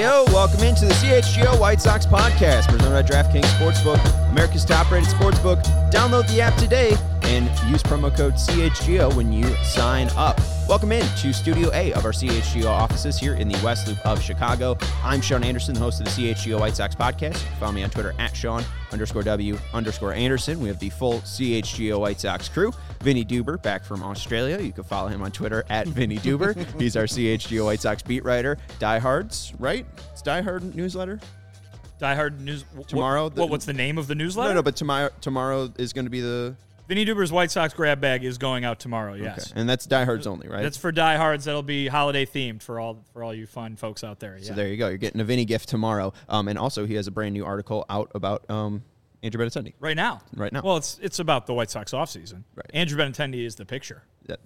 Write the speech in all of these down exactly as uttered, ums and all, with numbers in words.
Heyo, welcome into the C H G O White Sox podcast, presented by DraftKings Sportsbook, America's top-rated sportsbook. Download the app today and use promo code C H G O when you sign up. Welcome in to Studio A of our C H G O offices here in the West Loop of Chicago. I'm Sean Anderson, the host of the C H G O White Sox podcast. You can follow me on Twitter at Sean underscore W underscore Anderson. We have the full C H G O White Sox crew. Vinny Duber back from Australia. You can follow him on Twitter at Vinny Duber. He's our C H G O White Sox beat writer. Diehards, right? It's Diehard newsletter. Diehard news tomorrow. What, the, what? What's the name of the newsletter? No, no, but tomorrow tomorrow is going to be the. Vinny Duber's White Sox grab bag is going out tomorrow. Yes, okay. And that's diehards only, right? That's for diehards. That'll be holiday themed for all for all you fun folks out there. Yeah. So there you go. You're getting a Vinny gift tomorrow. Um, and also he has a brand new article out about um Andrew Benintendi. Right now. Right now. Well, it's it's about the White Sox offseason. Right. Andrew Benintendi is the picture. Yeah.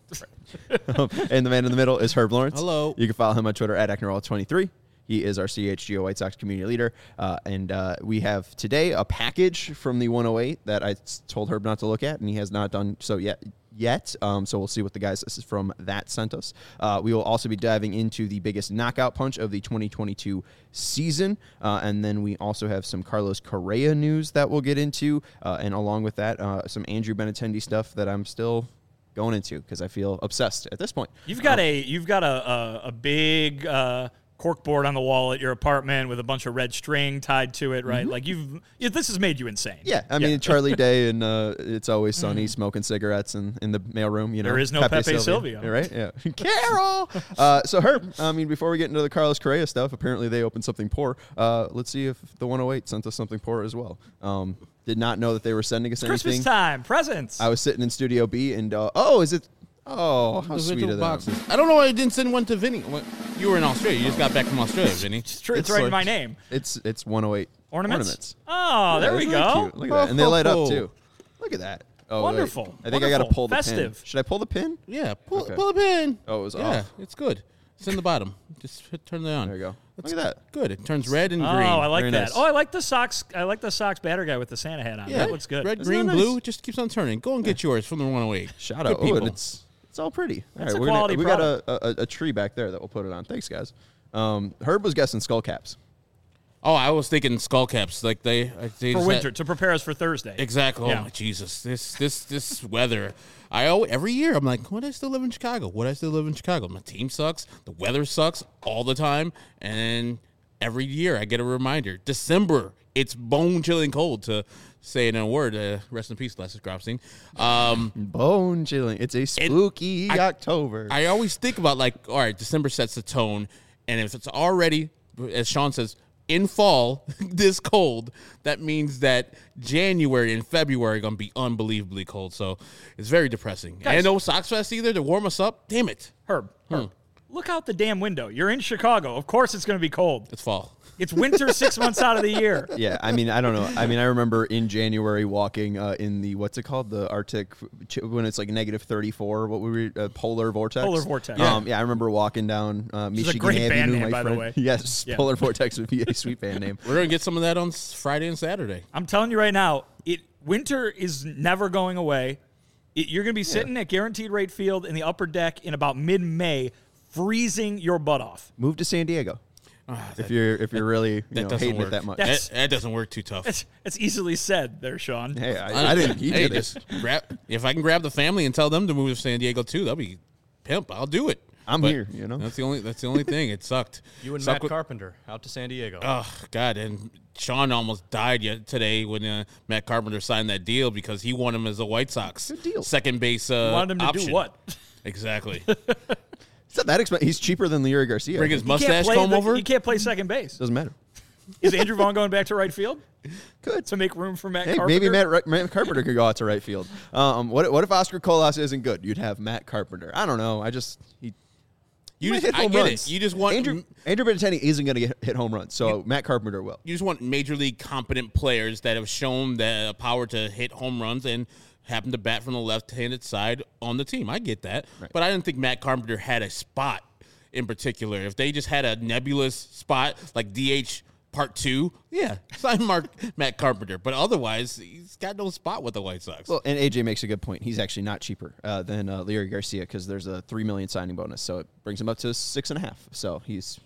um, and the man in the middle is Herb Lawrence. Hello. You can follow him on Twitter at Ecknerall twenty-three. He is our C H G O White Sox community leader. Uh, and uh, we have today a package from the one oh eight that I told Herb not to look at, and he has not done so yet. Yet, um, so we'll see what the guys from that sent us. Uh, we will also be diving into the biggest knockout punch of the twenty twenty-two season, uh, and then we also have some Carlos Correa news that we'll get into, uh, and along with that, uh, some Andrew Benintendi stuff that I'm still going into because I feel obsessed at this point. You've got um, a you've got a a, a big. Uh, corkboard on the wall at your apartment with a bunch of red string tied to it, right? Mm-hmm. Like you've, this has made you insane. Yeah, I mean, yeah. Charlie Day and uh, It's Always Sunny smoking cigarettes in, in the mailroom, you know. There is no Pepe, Pepe Silvia. Silvia. Right? Yeah. Carol! uh, so, Herb, I mean, before we get into the Carlos Correa stuff, apparently they opened something poor. Uh, let's see if the one oh eight sent us something poor as well. Um, did not know that they were sending us it's anything. Christmas time, presents. I was sitting in Studio B and, uh, oh, is it... Oh, how sweet of them. Boxes. I don't know why I didn't send one to Vinny. You were in Australia. You just got back from Australia, Vinny. It's true. It's, it's right in my name. It's it's one oh eight ornaments. ornaments. Oh, yeah, there we really go. Cute. Look at that, and they light up too. Look at that. Oh, wonderful. Wait. I think Wonderful. I got to pull the Festive. pin. Should I pull the pin? Yeah, pull okay. pull the pin. Oh, it was yeah, off. It's good. It's in the bottom. Just hit, turn it on. There you go. That's Look at that. Good. It turns red and oh, green. Oh, I like Very that. nice. Oh, I like the Sox. I like the Sox batter guy with the Santa hat on. Yeah, that looks good. Red, Isn't green, nice? blue. It just keeps on turning. Go and get yours from the one oh eight. Shout Good out. people. Oh, and it's it's all pretty. That's all right, a we're quality gonna, we product. got a, a, a tree back there that we'll put it on. Thanks, guys. Um, Herb was guessing skull caps. Oh, I was thinking skull caps, like they, they for winter had, to prepare us for Thursday. Exactly. Yeah. Oh my Jesus, this this this weather. I always, every year I'm like, would I still live in Chicago? Would I still live in Chicago? My team sucks. The weather sucks all the time, and every year I get a reminder. December, it's bone chilling cold. To say it in a word, uh, rest in peace, Lester Grobstein. Um, bone chilling. It's a spooky I, October. I always think about like, all right, December sets the tone, and if it's already, as Sean says, in fall, this cold, that means that January and February are going to be unbelievably cold. So it's very depressing. Guys, and no Sox Fest either to warm us up. Damn it. Herb, Herb, hmm. look out the damn window. You're in Chicago. Of course it's going to be cold. It's fall. It's winter six months out of the year. Yeah, I mean, I don't know. I mean, I remember in January walking uh, in the, what's it called? The Arctic, when it's like negative thirty-four, what were we, uh, polar vortex? Polar vortex. Um, yeah. yeah, I remember walking down uh, Michigan Which is a great Avenue, band name, my by friend. the way. Yes, yeah. Polar Vortex would be a sweet band name. We're going to get some of that on Friday and Saturday. I'm telling you right now, it winter is never going away. It, you're going to be sitting yeah. at Guaranteed Rate Field in the upper deck in about mid-May, freezing your butt off. Move to San Diego. Oh, that, if you're if you're really you know, hating work. it that much, that, that doesn't work too tough. That's, that's easily said, there, Sean. Hey, I, I didn't. He hey, did just grab. If I can grab the family and tell them to move to San Diego too, that'll be pimp. I'll do it. I'm but here. You know, that's the only that's the only thing. It sucked. You and Suck Matt with, Carpenter out to San Diego. Oh God! And Sean almost died yet today when uh, Matt Carpenter signed that deal because he wanted him as a White Sox Good deal. second base. Uh, you wanted him to option. do what? Exactly. It's not that expensive. He's cheaper than Leury Garcia. Bring his mustache comb the, over. He can't play second base. Doesn't matter. Is Andrew Vaughn going back to right field? Good. To make room for Matt hey, Carpenter? Maybe Matt, Matt Carpenter could go out to right field. Um, what, what if Oscar Colas isn't good? You'd have Matt Carpenter. I don't know. I just he. You just, hit home I get runs. it. You just want Andrew Andrew Benintendi isn't going to hit home runs, so you, Matt Carpenter will. You just want major league competent players that have shown the power to hit home runs and happen to bat from the left-handed side on the team. I get that, right. But I didn't think Matt Carpenter had a spot in particular. If they just had a nebulous spot like D H part two, yeah, sign Mark Matt Carpenter. But otherwise, he's got no spot with the White Sox. Well, and A J makes a good point. He's actually not cheaper uh, than uh, Leury Garcia because there's a three million signing bonus, so it brings him up to six and a half. So he's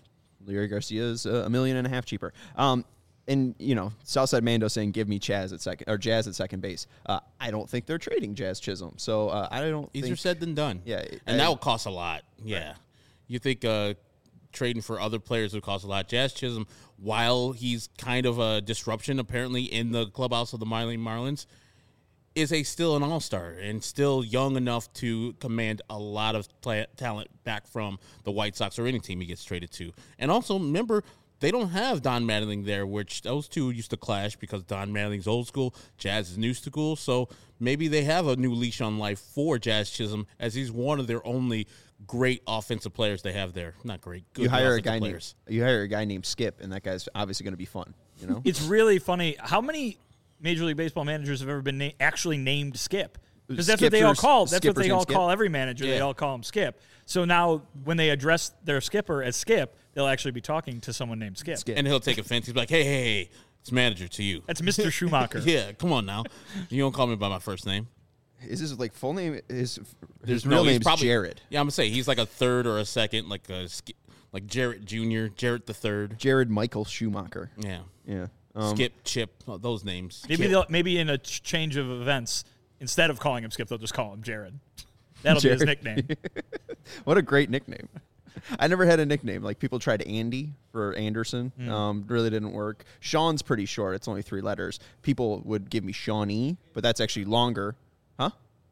Leury Garcia is a million and a half cheaper. Um, and, you know, Southside Mando saying, give me Chaz at second, or Jazz at second base. Uh, I don't think they're trading Jazz Chisholm. So uh, I don't Easier think. said than done. Yeah. And I, that will cost a lot. Yeah. Right. You think uh, trading for other players would cost a lot. Jazz Chisholm, while he's kind of a disruption apparently in the clubhouse of the Miami Marlins, is a still an all-star and still young enough to command a lot of play- talent back from the White Sox or any team he gets traded to. And also, remember, they don't have Don Mattingly there, which those two used to clash because Don Mattingly's old school, Jazz is new school. So maybe they have a new leash on life for Jazz Chisholm, as he's one of their only great offensive players they have there. Not great, good you hire a offensive guy players. named, you hire a guy named Skip, and that guy's obviously going to be fun. You know, it's really funny. How many Major League Baseball managers have ever been na- actually named Skip? Because that's what they all call. That's what they all call every manager. Yeah. They all call him Skip. So now, when they address their skipper as Skip, they'll actually be talking to someone named Skip. Skip. And he'll take offense. He's like, hey, hey, hey, it's manager to you. That's Mister Schumacher. Yeah, come on now. You don't call me by my first name. Is his like full name? His, There's his real no, name's probably, Jared. Yeah, I'm gonna say he's like a third or a second, like a like Jarrett Junior, Jarrett the third. Jared Michael Schumacher. Yeah, yeah. Um, Skip, Chip, oh, those names. Maybe Chip. they'll, maybe in a ch- change of events, instead of calling him Skip, they'll just call him Jared. That'll Jared. be his nickname. What a great nickname. I never had a nickname. Like, people tried Andy for Anderson. Mm. Um, really didn't work. Sean's pretty short. It's only three letters. People would give me Shawnee, but that's actually longer. Huh?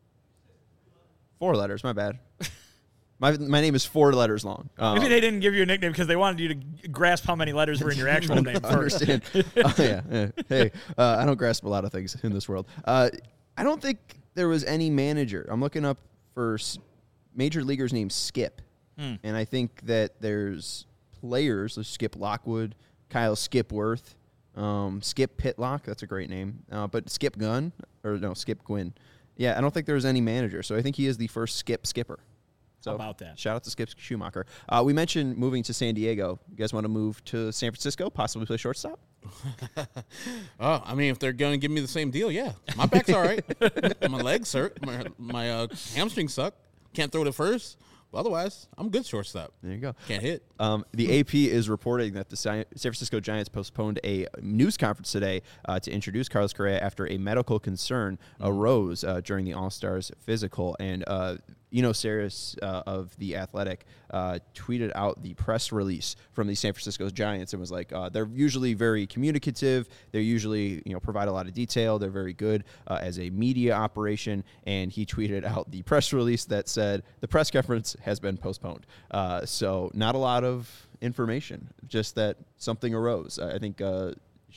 Four letters. My bad. My my name is four letters long. Um, Maybe they didn't give you a nickname because they wanted you to grasp how many letters were in your actual name first. Understand. Oh, yeah, yeah. Hey, uh, I don't grasp a lot of things in this world. Uh, I don't think there was any manager. I'm looking up for s- major leaguers named Skip. Hmm. And I think that there's players, like Skip Lockwood, Kyle Skipworth, um, Skip Pitlock. That's a great name. Uh, but Skip Gunn, or no, Skip Gwynn. Yeah, I don't think there was any manager. So I think he is the first Skip skipper. So How about that? Shout out to Skip Schumacher. Uh, we mentioned moving to San Diego. You guys want to move to San Francisco, possibly play shortstop? Oh, I mean, if they're going to give me the same deal, yeah. My back's all right. My legs hurt. My, my uh, hamstrings suck. Can't throw to first. But otherwise, I'm good shortstop. There you go. Can't hit. Um, the A P is reporting that the San Francisco Giants postponed a news conference today uh, to introduce Carlos Correa after a medical concern mm-hmm. arose uh, during the All-Stars physical. And uh, Eno Sarris uh, of The Athletic uh, tweeted out the press release from the San Francisco Giants and was like, uh, they're usually very communicative. They're usually, you know, provide a lot of detail. They're very good uh, as a media operation. And he tweeted out the press release that said the press conference has been postponed. Uh, so not a lot of information, just that something arose. I think uh,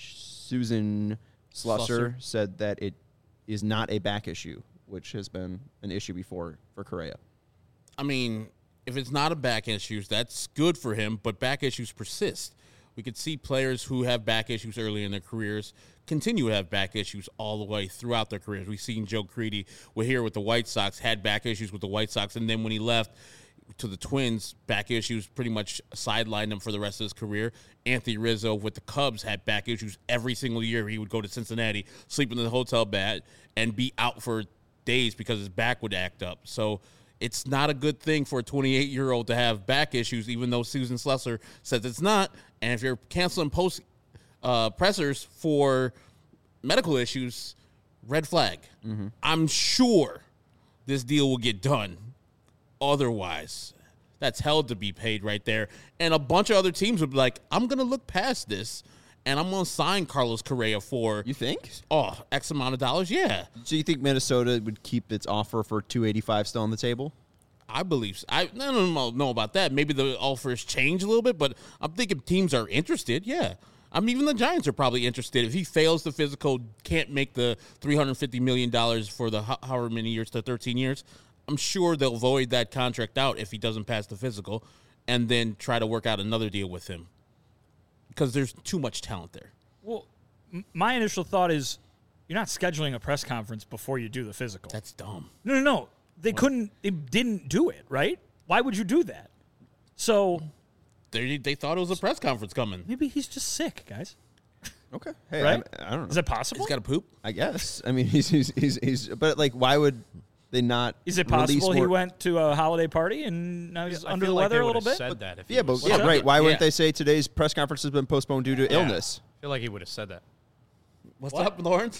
Susan Slusser, Slusser said that it is not a back issue, which has been an issue before for Correa. I mean, if it's not a back issue, that's good for him, but back issues persist. We could see players who have back issues early in their careers continue to have back issues all the way throughout their careers. We've seen Joe Crede, we're here with the White Sox, had back issues with the White Sox, and then when he left to the Twins, back issues pretty much sidelined him for the rest of his career. Anthony Rizzo with the Cubs had back issues every single year. He would go to Cincinnati, sleep in the hotel bed, and be out for days because his back would act up. So it's not a good thing for a twenty-eight-year-old to have back issues, even though Susan Slusser says it's not. And if you're canceling post uh, pressers for medical issues, red flag. Mm-hmm. I'm sure this deal will get done. Otherwise, that's hell to be paid right there. And a bunch of other teams would be like, I'm going to look past this, and I'm going to sign Carlos Correa for... You think? Oh, X amount of dollars, yeah. So you think Minnesota would keep its offer for two eighty-five still on the table? I believe so. I, I don't know about that. Maybe the offers change a little bit, but I'm thinking teams are interested, yeah. I mean, even the Giants are probably interested. If he fails the physical, can't make the three hundred fifty million dollars for the however many years to thirteen years, I'm sure they'll void that contract out if he doesn't pass the physical and then try to work out another deal with him because there's too much talent there. Well, m- my initial thought is you're not scheduling a press conference before you do the physical. That's dumb. No, no, no. They what? couldn't, they didn't do it, right? Why would you do that? So... They, they thought it was a press conference coming. Maybe he's just sick, guys. Okay. Hey, right? I, I don't know. Is it possible? He's got to poop? I guess. I mean, he's, he's, he's, he's, but like, why would they not? Is it release possible he more- went to a holiday party and now he's I under feel the like weather they a little would've bit? Said that if he Yeah, but was yeah, sick. right. Why wouldn't Yeah. they say today's press conference has been postponed due to Yeah. illness? I feel like he would have said that. What's up, Lawrence?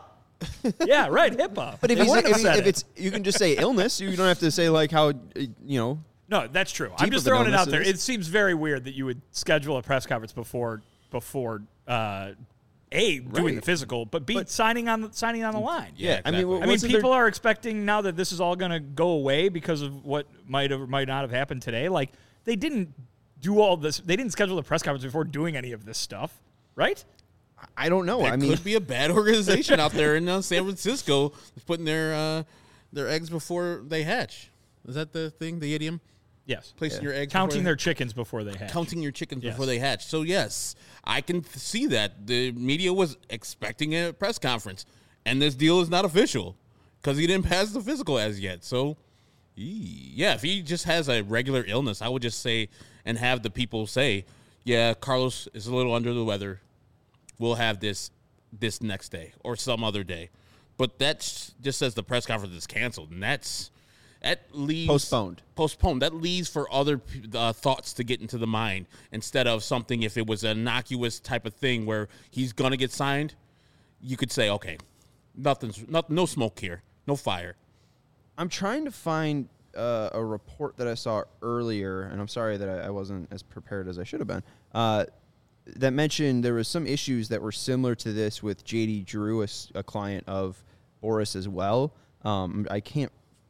Yeah, right. HIPAA. But if, They he's, wouldn't if, have he- said if it. it's, you can just say illness. You don't have to say like how, uh, you know. No, that's true. I'm Deep just of an throwing it out illness there. it is. It seems very weird that you would schedule a press conference before before uh, A, doing Right. the physical, but B, But- signing on the, signing on the line. Yeah, I mean, exactly. what- I mean, wasn't people there- are expecting now that this is all going to go away because of what might have might not have happened today. Like they didn't do all this. They didn't schedule a press conference before doing any of this stuff, right? I don't know. There I mean, could be a bad organization out there in uh, San Francisco that's putting their uh, their eggs before they hatch. Is that the thing, the idiom? Yes. Placing your eggs Counting before their chickens before they hatch. counting your chickens Yes. before they hatch. So yes, I can th- see that the media was expecting a press conference, and this deal is not official because he didn't pass the physical as yet. So, ee, yeah, if he just has a regular illness, I would just say and have the people say, "Yeah, Carlos is a little under the weather. We'll have this this next day or some other day." But that's just says the press conference is canceled, and that's that leaves Postponed. Postponed. That leaves for other uh, thoughts to get into the mind instead of something. If it was an innocuous type of thing where he's gonna get signed, you could say, okay, nothing's not no smoke here, no fire. I'm trying to find uh, a report that I saw earlier, and I'm sorry that I, I wasn't as prepared as I should have been. Uh, that mentioned there was some issues that were similar to this with J D Drew, a, s- a client of Boris as well. Um, I can't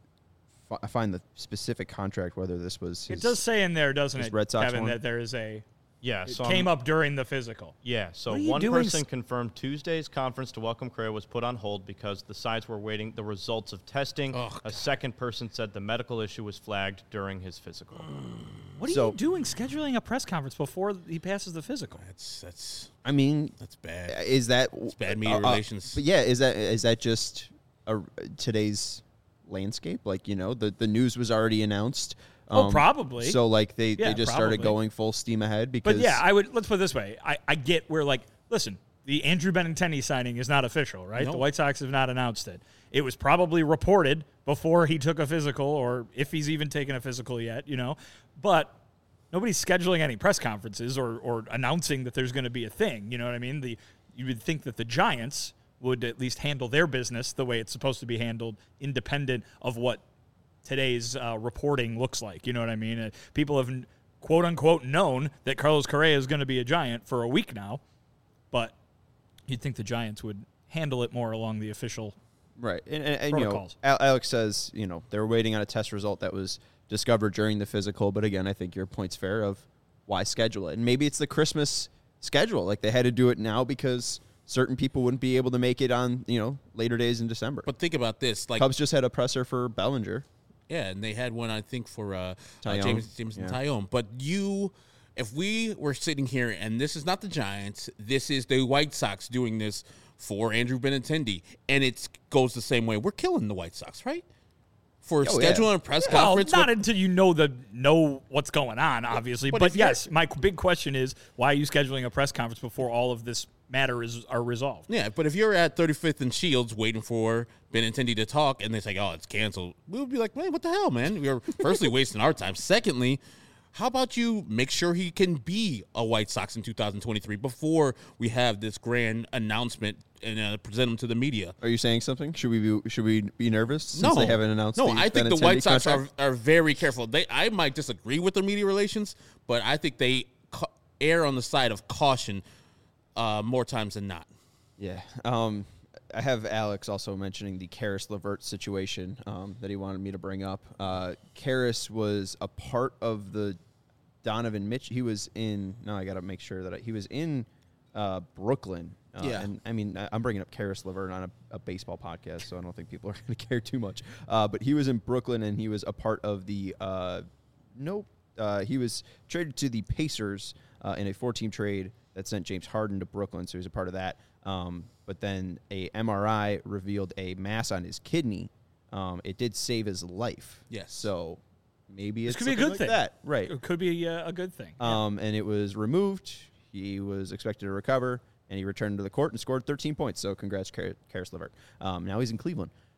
fi- find the specific contract whether this was. His, It does say in there, doesn't his it, Red Sox Kevin, one? that there is a. Yeah, It so came I'm- up during the physical. Yeah, so What are you one doing person s- confirmed Tuesday's conference to welcome Correa was put on hold because the sides were waiting the results of testing. Oh, a second person said the medical issue was flagged during his physical. What are So- you doing scheduling a press conference before he passes the physical? That's that's I mean, that's bad. is that It's bad media uh, uh, relations. But yeah, is that is that just a, today's landscape? Like, you know, the the news was already announced. Oh, probably. So like they, Yeah, they just started probably. going full steam ahead because But yeah, I would let's put it this way. I, I get where like listen, the Andrew Benintendi signing is not official, right? No. The White Sox have not announced it. It was probably reported before he took a physical, or if he's even taken a physical yet, you know. But nobody's scheduling any press conferences or or announcing that there's going to be a thing. You know what I mean? The you would think that the Giants would at least handle their business the way it's supposed to be handled, independent of what today's uh, reporting looks like. You know what I mean? Uh, people have quote unquote known that Carlos Correa is going to be a Giant for a week now, but you'd think the Giants would handle it more along the official. right. And, and, and you know, Protocols. Al- Alex says, you know, they were waiting on a test result that was discovered during the physical. But again, I think your point's fair of why schedule it. And maybe it's the Christmas schedule. Like they had to do it now because certain people wouldn't be able to make it on, you know, later days in December. But think about this, like Cubs just had a presser for Bellinger. yeah, and they had one I think for uh, uh Tyone. James James Yeah. Tyone. But you, if we were sitting here and this is not the Giants, this is the White Sox doing this for Andrew Benintendi, and it goes the same way. We're killing the White Sox, right? For Oh, yeah. scheduling a press Well, conference. not with- until you know the know what's going on, obviously. but But, if you're- yes, my big question is why are you scheduling a press conference before all of this matter is are resolved? Yeah, but if you're at thirty-fifth and Shields waiting for Benintendi to talk and they say, oh, it's canceled, we'll be like, man, what the hell, man? We're firstly wasting our time. Secondly, how about you make sure he can be a White Sox in two thousand twenty-three before we have this grand announcement and uh, present him to the media? Are you saying something? Should we be, should we be nervous since No, they haven't announced? No, the I think the Benintendi White Sox are, contract? are very careful. They, I might disagree with their media relations, but I think they ca- err on the side of caution uh, more times than not. Yeah. Um, I have Alex also mentioning the Karis LeVert situation um, that he wanted me to bring up. Uh, Karis was a part of the Donovan Mitch. He was in. No, I got to make sure that I, he was in uh, Brooklyn. Uh, Yeah. And I mean, I- I'm bringing up Karis LeVert on a, a baseball podcast, so I don't think people are going to care too much. Uh, but he was in Brooklyn, and he was a part of the. Uh, nope. Uh, he was traded to the Pacers uh, in a four-team trade that sent James Harden to Brooklyn, so he was a part of that. Um, but then a M R I revealed a mass on his kidney. Um, it did save his life. Yes. So maybe This it's could be a something good like thing. that. Right. It could be a, a good thing. Um, and it was removed. He was expected to recover, and he returned to the court and scored thirteen points. So congrats, Kar- Karis LeVert. Um, now he's in Cleveland.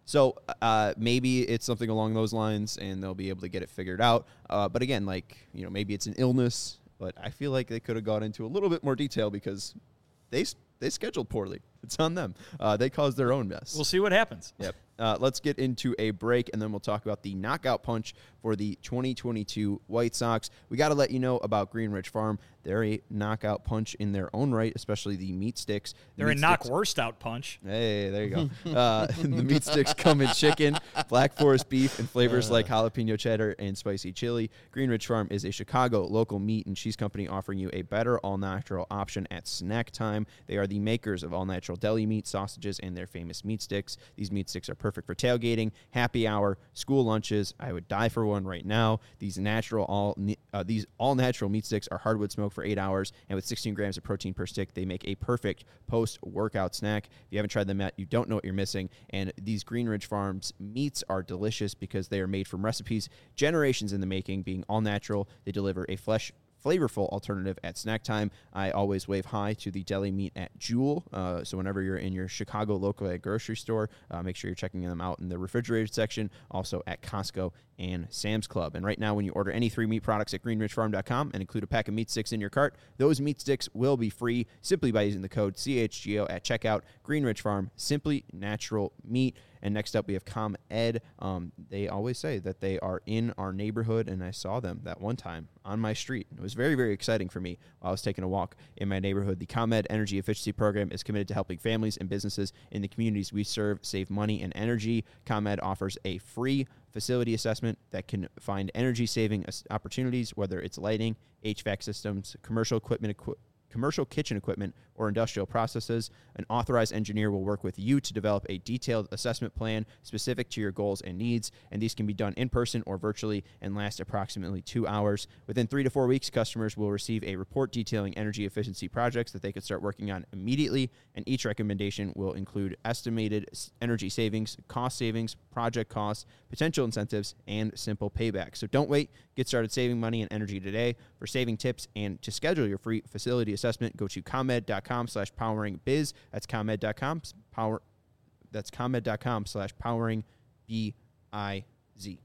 So uh, maybe it's something along those lines, and they'll be able to get it figured out. Uh, but again, like, you know, maybe it's an illness, but I feel like they could have gone into a little bit more detail because they they scheduled poorly. It's on them. Uh, they caused their own mess. We'll see what happens. Yep. Uh, let's get into a break, and then we'll talk about the knockout punch for the twenty twenty-two White Sox. We got to let you know about Green Ridge Farm. They're a knockout punch in their own right, especially the meat sticks. The They're meat a knock sticks, worst out punch. Hey, there you go. uh, the meat sticks come in chicken, Black Forest beef, and flavors uh. like jalapeno cheddar and spicy chili. Green Ridge Farm is a Chicago local meat and cheese company offering you a better all-natural option at snack time. They are the makers of all-natural deli meat, sausages, and their famous meat sticks. These meat sticks are perfect for tailgating, happy hour, school lunches. I would die for one right now. These natural all uh, these all-natural meat sticks are hardwood smoked for eight hours, and with sixteen grams of protein per stick, they make a perfect post-workout snack. If you haven't tried them yet, you don't know what you're missing. And these Green Ridge Farms meats are delicious because they are made from recipes generations in the making, being all natural. They deliver a flesh flavorful alternative at snack time. I always wave hi to the deli meat at Jewel. Uh, so whenever you're in your Chicago local grocery store, uh, make sure you're checking them out in the refrigerated section, also at Costco and Sam's Club. And right now, when you order any three meat products at green ridge farm dot com and include a pack of meat sticks in your cart, those meat sticks will be free simply by using the code C H G O at checkout. Green Ridge Farm, simply natural meat. And next up, we have ComEd. Um, they always say that they are in our neighborhood, and I saw them that one time on my street. It was very, very exciting for me while I was taking a walk in my neighborhood. The ComEd Energy Efficiency Program is committed to helping families and businesses in the communities we serve save money and energy. ComEd offers a free facility assessment that can find energy-saving opportunities, whether it's lighting, H V A C systems, commercial equipment, equipment, commercial kitchen equipment, or industrial processes. An authorized engineer will work with you to develop a detailed assessment plan specific to your goals and needs, and these can be done in person or virtually and last approximately two hours. Within three to four weeks, customers will receive a report detailing energy efficiency projects that they could start working on immediately, and each recommendation will include estimated energy savings, cost savings, project costs, potential incentives, and simple payback. So don't wait. Get started saving money and energy today. For saving tips and to schedule your free facility assessment, go to ComEd.com slash powering biz. That's ComEd.com power. That's ComEd.com slash powering B I Z.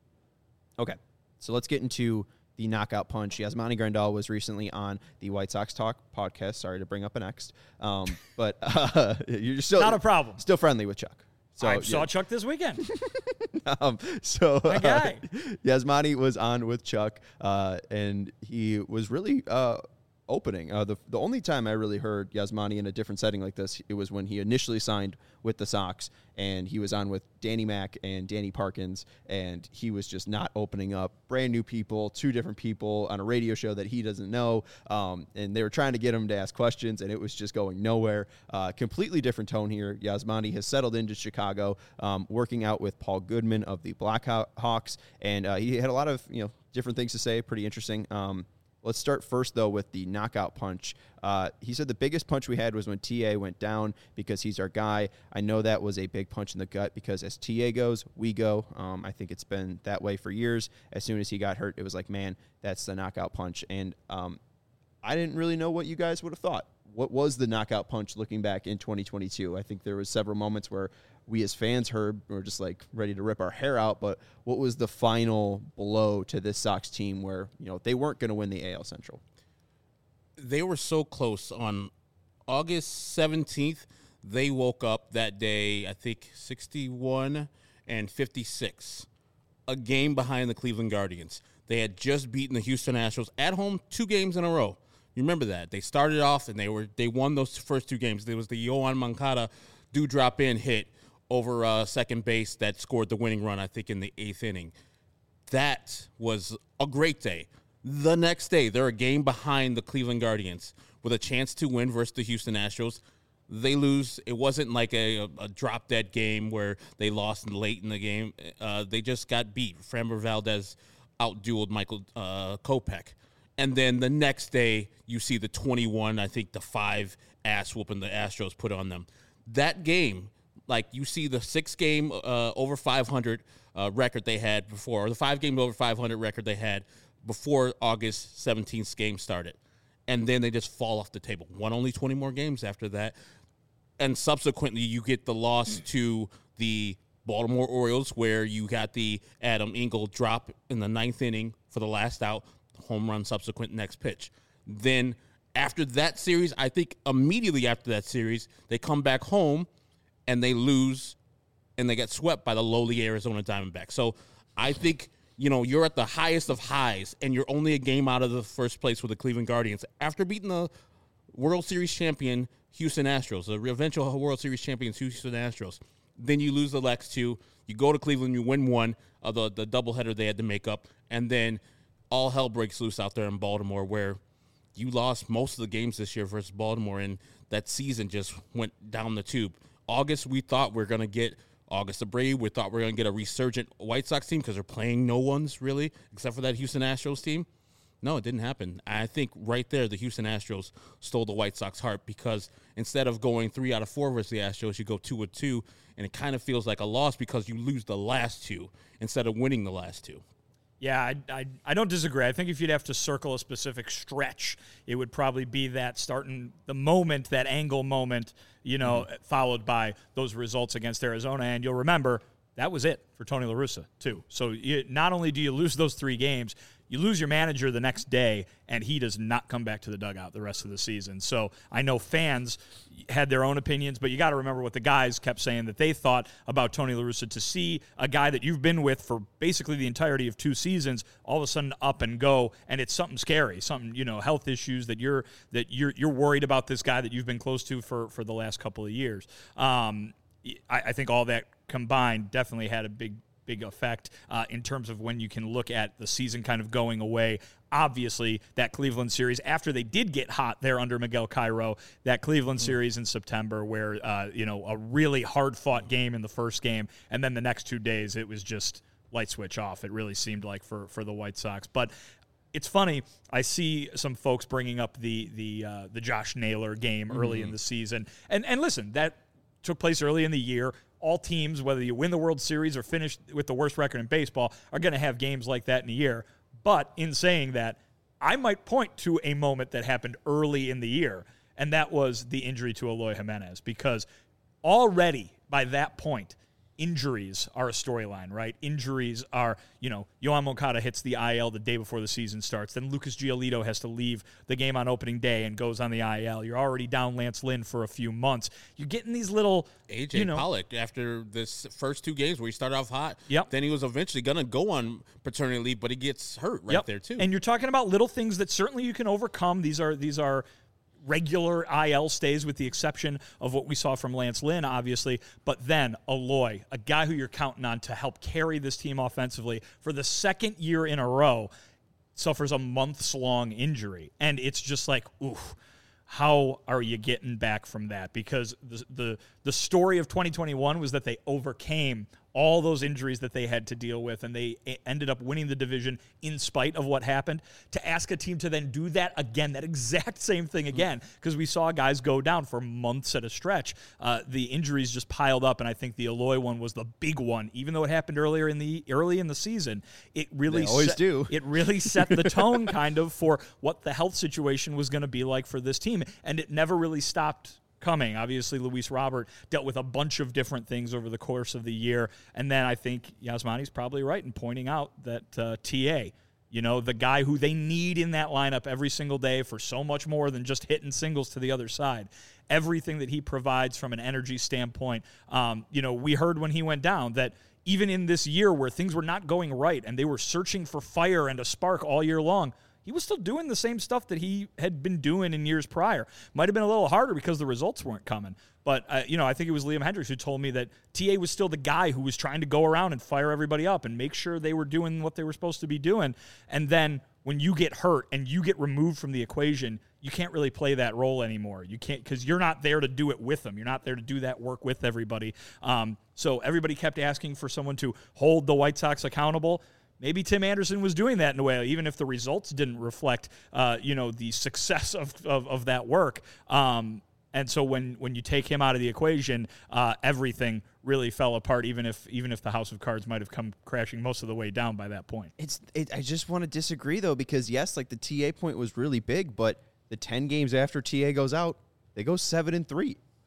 Okay, so let's get into the knockout punch. Yasmani Grandal was recently on the White Sox Talk podcast. Sorry to bring up an ex, um, but uh, you're still not a problem. Still friendly with Chuck. So I saw yeah. Chuck this weekend. um, so My guy. Uh, Yasmani was on with Chuck, uh, and he was really uh, opening. Uh, the the only time I really heard Yasmani in a different setting like this, it was when he initially signed with the Sox, and he was on with Danny Mac and Danny Parkins, and he was just not opening up. Brand new people, two different people on a radio show that he doesn't know, um, and they were trying to get him to ask questions, and it was just going nowhere. Uh, completely different tone here. Yasmani has settled into Chicago, um, working out with Paul Goodman of the Blackhawks, and uh, he had a lot of you know different things to say. Pretty interesting. Um, Let's start first, though, with the knockout punch. Uh, he said the biggest punch we had was when T A went down because he's our guy. I know that was a big punch in the gut because as T A goes, we go. Um, I think it's been that way for years. As soon as he got hurt, it was like, man, that's the knockout punch. And um, I didn't really know what you guys would have thought. What was the knockout punch looking back in twenty twenty-two? I think there was several moments where we as fans heard we were just like ready to rip our hair out. But what was the final blow to this Sox team where, you know, they weren't going to win the A L Central? They were so close. On August seventeenth, they woke up that day, I think sixty-one and fifty-six, a game behind the Cleveland Guardians. They had just beaten the Houston Astros at home two games in a row. You remember that. They started off and they were they won those first two games. There was the Yoan Moncada do-drop-in hit over uh, second base that scored the winning run, I think, in the eighth inning. That was a great day. The next day, they're a game behind the Cleveland Guardians with a chance to win versus the Houston Astros. They lose. It wasn't like a, a drop-dead game where they lost late in the game. Uh, they just got beat. Framber Valdez outdueled Michael uh, Kopech. And then the next day, you see the twenty-one, I think the five ass whooping the Astros put on them. That game, like you see the six-game uh, over five hundred uh, record they had before, or the five-game over five hundred record they had before August seventeenth game started. And then they just fall off the table. Won only twenty more games after that. And subsequently, you get the loss to the Baltimore Orioles, where you got the Adam Engel drop in the ninth inning for the last out, home run subsequent next pitch. Then after that series, I think immediately after that series, they come back home and they lose and they get swept by the lowly Arizona Diamondbacks. So I think, you know, you're at the highest of highs and you're only a game out of the first place with the Cleveland Guardians after beating the World Series champion Houston Astros, the eventual World Series champions Houston Astros. Then you lose the next two. You go to Cleveland, you win one of the, the doubleheader they had to make up, and then all hell breaks loose out there in Baltimore, where you lost most of the games this year versus Baltimore, and that season just went down the tube. August, we thought we were going to get August Abreu. We thought we were going to get a resurgent White Sox team because they're playing no ones, really, except for that Houston Astros team. No, it didn't happen. I think right there the Houston Astros stole the White Sox heart because instead of going three out of four versus the Astros, you go two or two, and it kind of feels like a loss because you lose the last two instead of winning the last two. Yeah, I, I, I don't disagree. I think if you'd have to circle a specific stretch, it would probably be that starting the moment, that angle moment, you know, mm-hmm. followed by those results against Arizona. And you'll remember that was it for Tony La Russa, too. So you, not only do you lose those three games, you lose your manager the next day, and he does not come back to the dugout the rest of the season. So I know fans had their own opinions, but you got to remember what the guys kept saying that they thought about Tony La Russa. To see a guy that you've been with for basically the entirety of two seasons all of a sudden up and go, and it's something scary, something, you know, health issues that you're that you're you're worried about this guy that you've been close to for for the last couple of years. Um, I, I think all that combined definitely had a big. big effect uh, in terms of when you can look at the season kind of going away. Obviously, that Cleveland series, after they did get hot there under Miguel Cairo, that Cleveland mm. series in September where, uh, you know, a really hard-fought game in the first game, and then the next two days it was just light switch off. It really seemed like for, for the White Sox. But it's funny, I see some folks bringing up the the uh, the Josh Naylor game mm-hmm. early in the season. And, and listen, that took place early in the year. All teams, whether you win the World Series or finish with the worst record in baseball, are going to have games like that in a year. But in saying that, I might point to a moment that happened early in the year, and that was the injury to Eloy Jimenez, because already by that point, injuries are a storyline, right? Injuries are, you know, Yohan Moncada hits the I L the day before the season starts. Then Lucas Giolito has to leave the game on opening day and goes on the I L. You're already down Lance Lynn for a few months. You're getting these little, A J you know, Pollock, after this first two games where he started off hot, yep. then he was eventually going to go on paternity leave, but he gets hurt right yep. there too. And you're talking about little things that certainly you can overcome. These are these are regular I L stays, with the exception of what we saw from Lance Lynn, obviously. But then Eloy, a guy who you're counting on to help carry this team offensively for the second year in a row, suffers a months-long injury. And it's just like, oof, how are you getting back from that? Because the the, the story of twenty twenty-one was that they overcame all those injuries that they had to deal with, and they ended up winning the division in spite of what happened. To ask a team to then do that again, that exact same thing again, because we saw guys go down for months at a stretch. Uh, the injuries just piled up, and I think the Eloy one was the big one. Even though it happened earlier in the early in the season, it really they always set, do. It really set the tone kind of for what the health situation was going to be like for this team, and it never really stopped coming. Obviously, Luis Robert dealt with a bunch of different things over the course of the year. And then I think Yasmani's probably right in pointing out that uh, T A, you know, the guy who they need in that lineup every single day for so much more than just hitting singles to the other side. Everything that he provides from an energy standpoint. Um, you know, we heard when he went down that even in this year where things were not going right and they were searching for fire and a spark all year long, he was still doing the same stuff that he had been doing in years prior. Might have been a little harder because the results weren't coming. But, uh, you know, I think it was Liam Hendriks who told me that T A was still the guy who was trying to go around and fire everybody up and make sure they were doing what they were supposed to be doing. And then when you get hurt and you get removed from the equation, you can't really play that role anymore. You can't, because you're not there to do it with them. You're not there to do that work with everybody. Um, so everybody kept asking for someone to hold the White Sox accountable. Maybe Tim Anderson was doing that in a way, even if the results didn't reflect, uh, you know, the success of, of, of that work. Um, and so when, when you take him out of the equation, uh, everything really fell apart, even if even if the House of Cards might have come crashing most of the way down by that point. It's it, I just want to disagree, though, because, yes, like the T A point was really big, but the ten games after T A goes out, they go seven and three.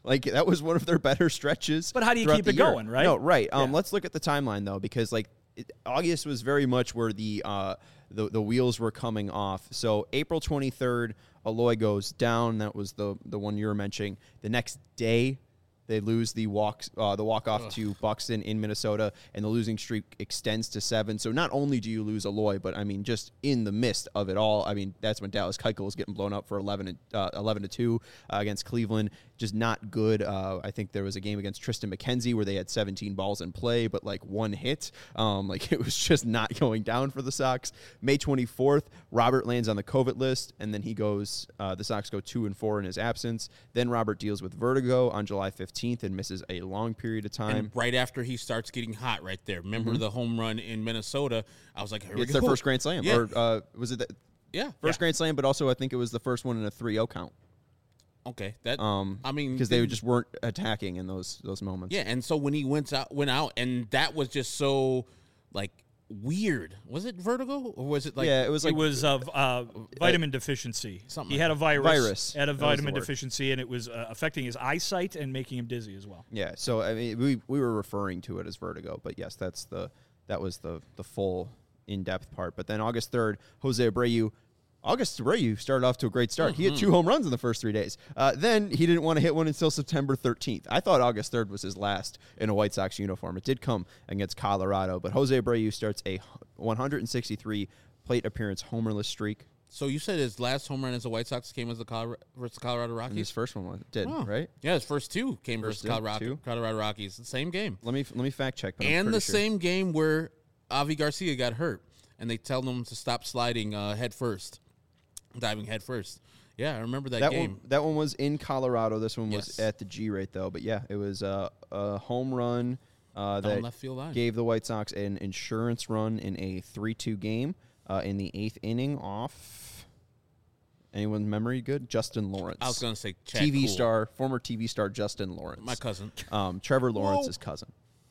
Like, that was one of their better stretches. But how do you throughout keep the it year. going, right? No, right. Um, Yeah. Let's look at the timeline, though, because, like, it, August was very much where the, uh, the the wheels were coming off. So April twenty-third, Eloy goes down. That was the the one you were mentioning. The next day, they lose the walk uh, the walk off to Buxton in Minnesota, and the losing streak extends to seven. So not only do you lose Eloy, but I mean, just in the midst of it all, I mean, that's when Dallas Keuchel was getting blown up for eleven and uh, eleven to two uh, against Cleveland. Just not good. Uh, I think there was a game against Tristan McKenzie where they had seventeen balls in play, but like one hit. Um, like it was just not going down for the Sox. May twenty-fourth, Robert lands on the COVID list, and then he goes. Uh, the Sox go two and four in his absence. Then Robert deals with vertigo on July fifteenth and misses a long period of time. And right after he starts getting hot, right there. Remember Mm-hmm. the home run in Minnesota? I was like, here we It's go. their first Grand Slam, Yeah. or uh, was it the Yeah. first Grand Slam? But also, I think it was the first one in a three oh count. Okay. That. Um, I mean, because they then- just weren't attacking in those those moments. Yeah, and so when he went out, went out, and that was just so like weird. Was it vertigo or was it like? yeah, it was like it was of uh, vitamin deficiency. something He like had a virus, Virus. had a That was the vitamin word. deficiency, and it was uh, affecting his eyesight and making him dizzy as well. yeah. So I mean, we we were referring to it as vertigo, but yes, that's the that was the the full in depth part. But then August third, Jose Abreu. August Abreu started off to a great start. He hit two home runs in the first three days. Uh, then he didn't want to hit one until September thirteenth. I thought August third was his last in a White Sox uniform. It did come against Colorado, but Jose Abreu starts a one hundred sixty-three plate appearance homerless streak. So you said his last home run as a White Sox came as the Colorado versus the Colorado And Rockies. his first one was- did, Oh. right? Yeah, his first two came First versus two? Colorado, Two? Colorado Rockies. The same game, Let me let me fact check. But I'm and pretty the sure. same game where Avi Garcia got hurt, and they tell him to stop sliding uh, head first, diving head first. Yeah, I remember that, That game. one, that one was in Colorado. This one was Yes. at the G rate though. But yeah, it was uh, a home run uh, Down that left field line. gave the White Sox an insurance run in a three two game uh, in the eighth inning off. Anyone's memory good? Justin Lawrence. I was going to say Chad T V Cool. star, former T V star Justin Lawrence. My cousin. Um, Trevor Lawrence's cousin.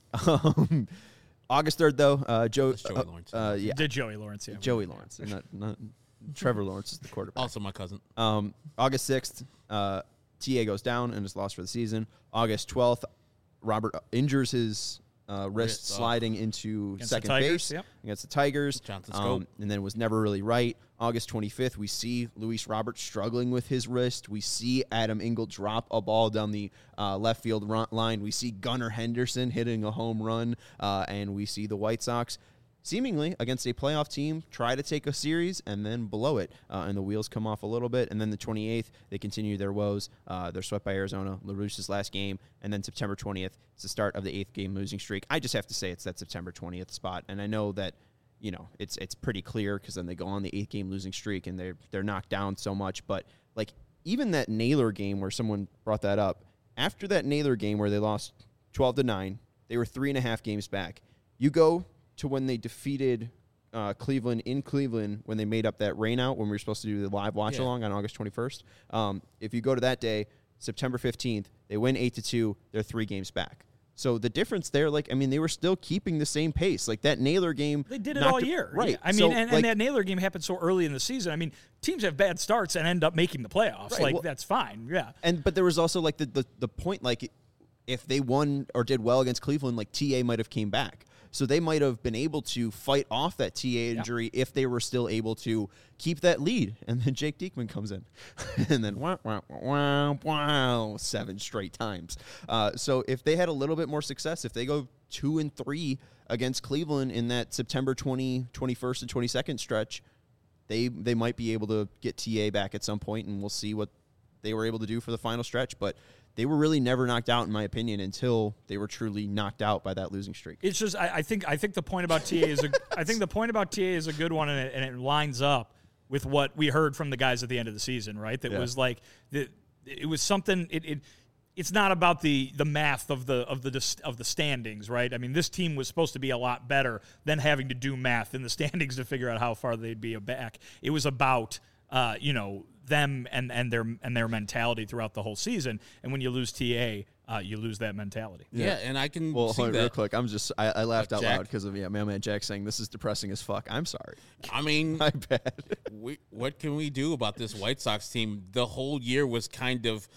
Um, August third though, uh, Joe. That's Joey uh, Lawrence. Uh, yeah, Did Joey Lawrence? Yeah, Joey Lawrence, not, not Trevor Lawrence is the quarterback. Also my cousin. Um, August sixth, uh, T A goes down and is lost for the season. August twelfth, Robert injures his uh, wrist Wrist, oh. sliding into Against the second Tigers, base yep. against the Tigers. Johnson um, Scope. and then was never really right. August twenty-fifth, we see Luis Robert struggling with his wrist. We see Adam Engel drop a ball down the uh, left field run- line. We see Gunnar Henderson hitting a home run, uh, and we see the White Sox seemingly against a playoff team try to take a series and then blow it, uh, and the wheels come off a little bit. And then the twenty-eighth, they continue their woes. Uh, they're swept by Arizona, LaRusche's last game, and then September twentieth, it's the start of the eighth game losing streak. I just have to say it's that September twentieth spot, and I know that you know it's it's pretty clear because then they go on the eighth game losing streak and they're they're knocked down so much. But like even that Naylor game where someone brought that up, after that Naylor game where they lost twelve to nine, they were three and a half games back. You go to when they defeated uh, Cleveland in Cleveland when they made up that rain out when we were supposed to do the live watch Yeah. along on August twenty-first. Um, if you go to that day, September fifteenth, they win eight to two. They're three games back. So the difference there, like I mean, they were still keeping the same pace. Like that Naylor game, They did it knocked all year. right? Yeah, I mean, So, and, like, and that Naylor game happened so early in the season. I mean, teams have bad starts and end up making the playoffs. Right, Like, well- that's fine. Yeah. And but there was also like the, the the point like if they won or did well against Cleveland, like T A might have came back. So they might have been able to fight off that T A injury if they were still able to keep that lead. And then Jake Diekman comes in, and then wow, wow, wow, wow, seven straight times. Uh, so if they had a little bit more success, if they go two and three against Cleveland in that September twentieth, twenty-first, and twenty-second stretch, they they might be able to get T A back at some point, and we'll see what they were able to do for the final stretch. But they were really never knocked out, in my opinion, until they were truly knocked out by that losing streak. It's just I, I think I think the point about T A is a I think the point about T A is a good one, and it, and it lines up with what we heard from the guys at the end of the season, right? That Yeah. was like the, it was something. It, it it's not about the the math of the of the dis- of the standings, right? I mean, this team was supposed to be a lot better than having to do math in the standings to figure out how far they'd be back. It was about uh, you know. them and, and their and their mentality throughout the whole season. And when you lose T A, uh, you lose that mentality. Yeah, and I can Well, see hold on, that. real quick, I'm just I, I laughed Uh, out Jack? loud because of yeah, Mailman Jack saying this is depressing as fuck. I'm sorry, I mean, my bad. we, what can we do about this White Sox team? The whole year was kind of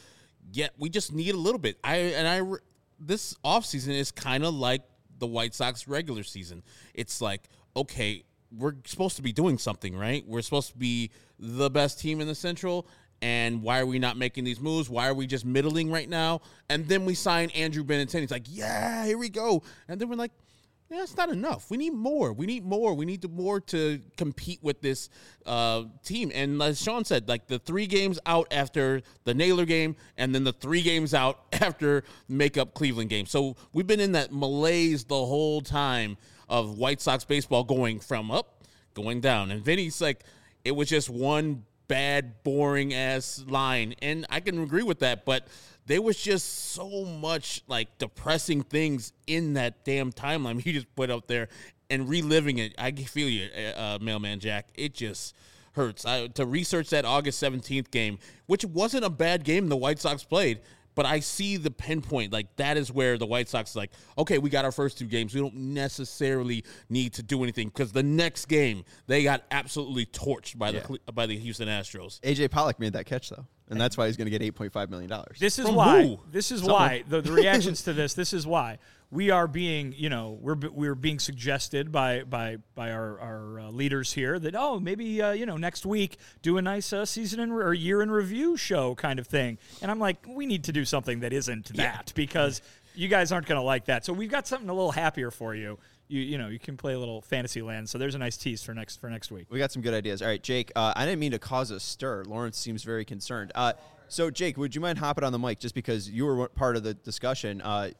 Yet we just need a little bit. I and I this offseason is kind of like the White Sox regular season. It's like, okay, we're supposed to be doing something, right? We're supposed to be the best team in the Central, and why are we not making these moves? Why are we just middling right now? And then we sign Andrew Benintendi. It's like, yeah, here we go. And then we're like, yeah, it's not enough. We need more. We need more. We need to more to compete with this uh, team. And as Sean said, like the three games out after the Naylor game, and then the three games out after make-up Cleveland game. So we've been in that malaise the whole time of White Sox baseball, going from up, going down. And Vinny's like, it was just one bad, boring-ass line. And I can agree with that, but there was just so much, like, depressing things in that damn timeline he just put up there, and reliving it. I feel you, uh, Mailman Jack. It just hurts. I, to research that August seventeenth game, which wasn't a bad game the White Sox played, but I see the pinpoint. Like, that is where the White Sox is like, okay, we got our first two games. We don't necessarily need to do anything, because the next game, they got absolutely torched by the yeah. by the Houston Astros. A J Pollock made that catch, though. And that's why he's going to get eight point five million dollars. This is From why. who? This is Someone. why the, the reactions to this. This is why we are being, you know, we're we're being suggested by by by our our uh, leaders here that oh maybe uh, you know next week do a nice uh, season in re- or year in review show kind of thing. And I'm like, we need to do something that isn't that Yeah. because you guys aren't going to like that. So we've got something a little happier for you. You you know you can play a little fantasy land. So there's a nice tease for next for next week. We got some good ideas. All right, Jake. Uh, I didn't mean to cause a stir. Lawrence seems very concerned. Uh, So, Jake, would you mind hopping on the mic just because you were part of the discussion? Uh,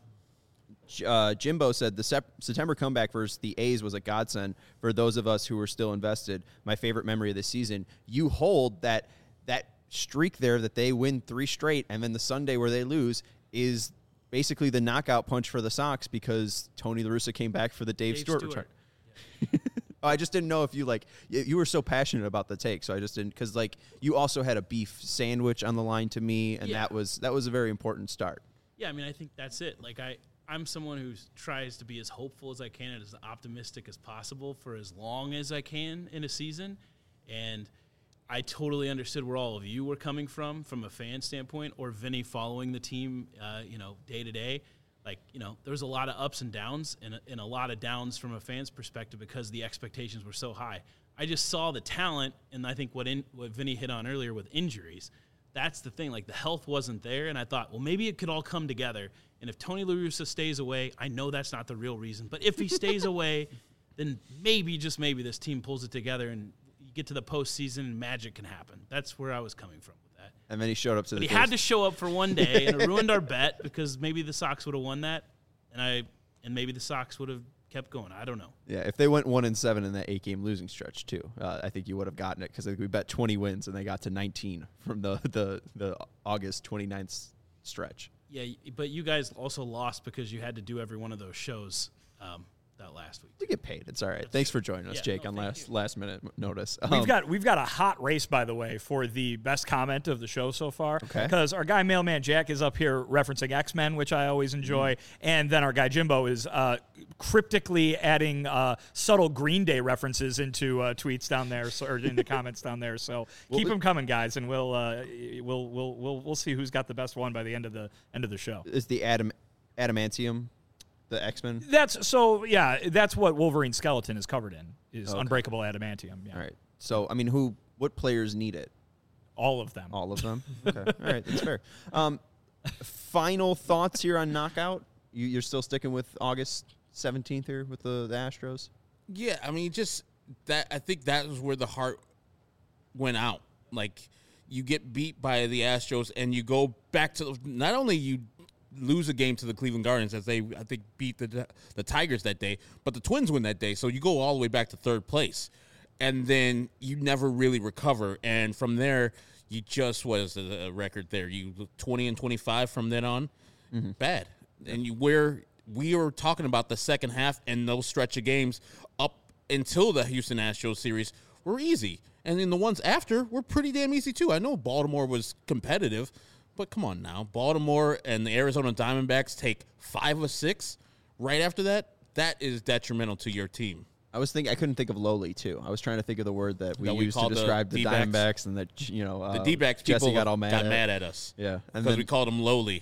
uh, Jimbo said the sep- September comeback versus the A's was a godsend for those of us who were still invested. My favorite memory of the season. You hold that that streak there that they win three straight, and then the Sunday where they lose is basically the knockout punch for the Sox because Tony La Russa came back for the Dave, Dave Stewart, Stewart. return. Oh, I just didn't know if you like you, you were so passionate about the take, so I just didn't because like you also had a beef sandwich on the line to me, and Yeah. that was that was a very important start. Yeah, I mean, I think that's it. Like, I, I'm someone who tries to be as hopeful as I can and as optimistic as possible for as long as I can in a season. And I totally understood where all of you were coming from, from a fan standpoint, or Vinny following the team, uh, you know, day to day. Like, you know, there was a lot of ups and downs and a, and a lot of downs from a fan's perspective because the expectations were so high. I just saw the talent, and I think what in, what Vinny hit on earlier with injuries, that's the thing. Like, the health wasn't there, and I thought, well, maybe it could all come together. And if Tony La Russa stays away, I know that's not the real reason, but if he stays away, then maybe, just maybe, this team pulls it together and you get to the postseason and magic can happen. That's where I was coming from with that. And then he showed up to But the. he had to show up for one day, and it ruined our bet because maybe the Sox would have won that, and I and maybe the Sox would have kept going. I don't know. Yeah, if they went one and seven in that eight-game losing stretch too, uh, I think you would have gotten it because we bet twenty wins and they got to nineteen from the the the August twenty-ninth stretch. Yeah, but you guys also lost because you had to do every one of those shows um, that last week. We get paid. It's all right. Thanks for joining us, Yeah, Jake, no, on thank last you. last minute notice. We've Um, got we've got a hot race, by the way, for the best comment of the show so far. Okay. Because our guy Mailman Jack is up here referencing X-Men, which I always enjoy, Mm-hmm. and then our guy Jimbo is uh, cryptically adding uh, subtle Green Day references into uh, tweets down there, so, or into comments down there. So keep them coming, guys, and we'll uh, we'll we'll we'll we'll see who's got the best one by the end of the end of the show. is the Adam Adamantium, the X-Men? That's so yeah. That's what Wolverine's skeleton is covered in is Okay. unbreakable adamantium. Yeah. All right. So I mean, who? What players need it? All of them. All of them. Okay. All right. That's fair. Um, final thoughts here on knockout. You, you're still sticking with August seventeenth here with the, the Astros. Yeah, I mean, just that. I think that was where the heart went out. Like, you get beat by the Astros, and you go back to not only you lose a game to the Cleveland Guardians, as they I think beat the the Tigers that day, but the Twins win that day. So you go all the way back to third place, and then you never really recover. And from there, you just was a record there. You twenty and twenty-five from then on, Mm-hmm. bad. And you where we were talking about the second half and those stretch of games up until the Houston Astros series were easy. And then the ones after were pretty damn easy, too. I know Baltimore was competitive, but come on now. Baltimore and the Arizona Diamondbacks take five or six right after that. That is detrimental to your team. I was thinking I couldn't think of lowly too. I was trying to think of the word that we That we used to call the describe the, D-backs. Diamondbacks, and that you know uh, The D-backs Jesse people got all mad got at. mad at us. Yeah, and Because then we called them lowly.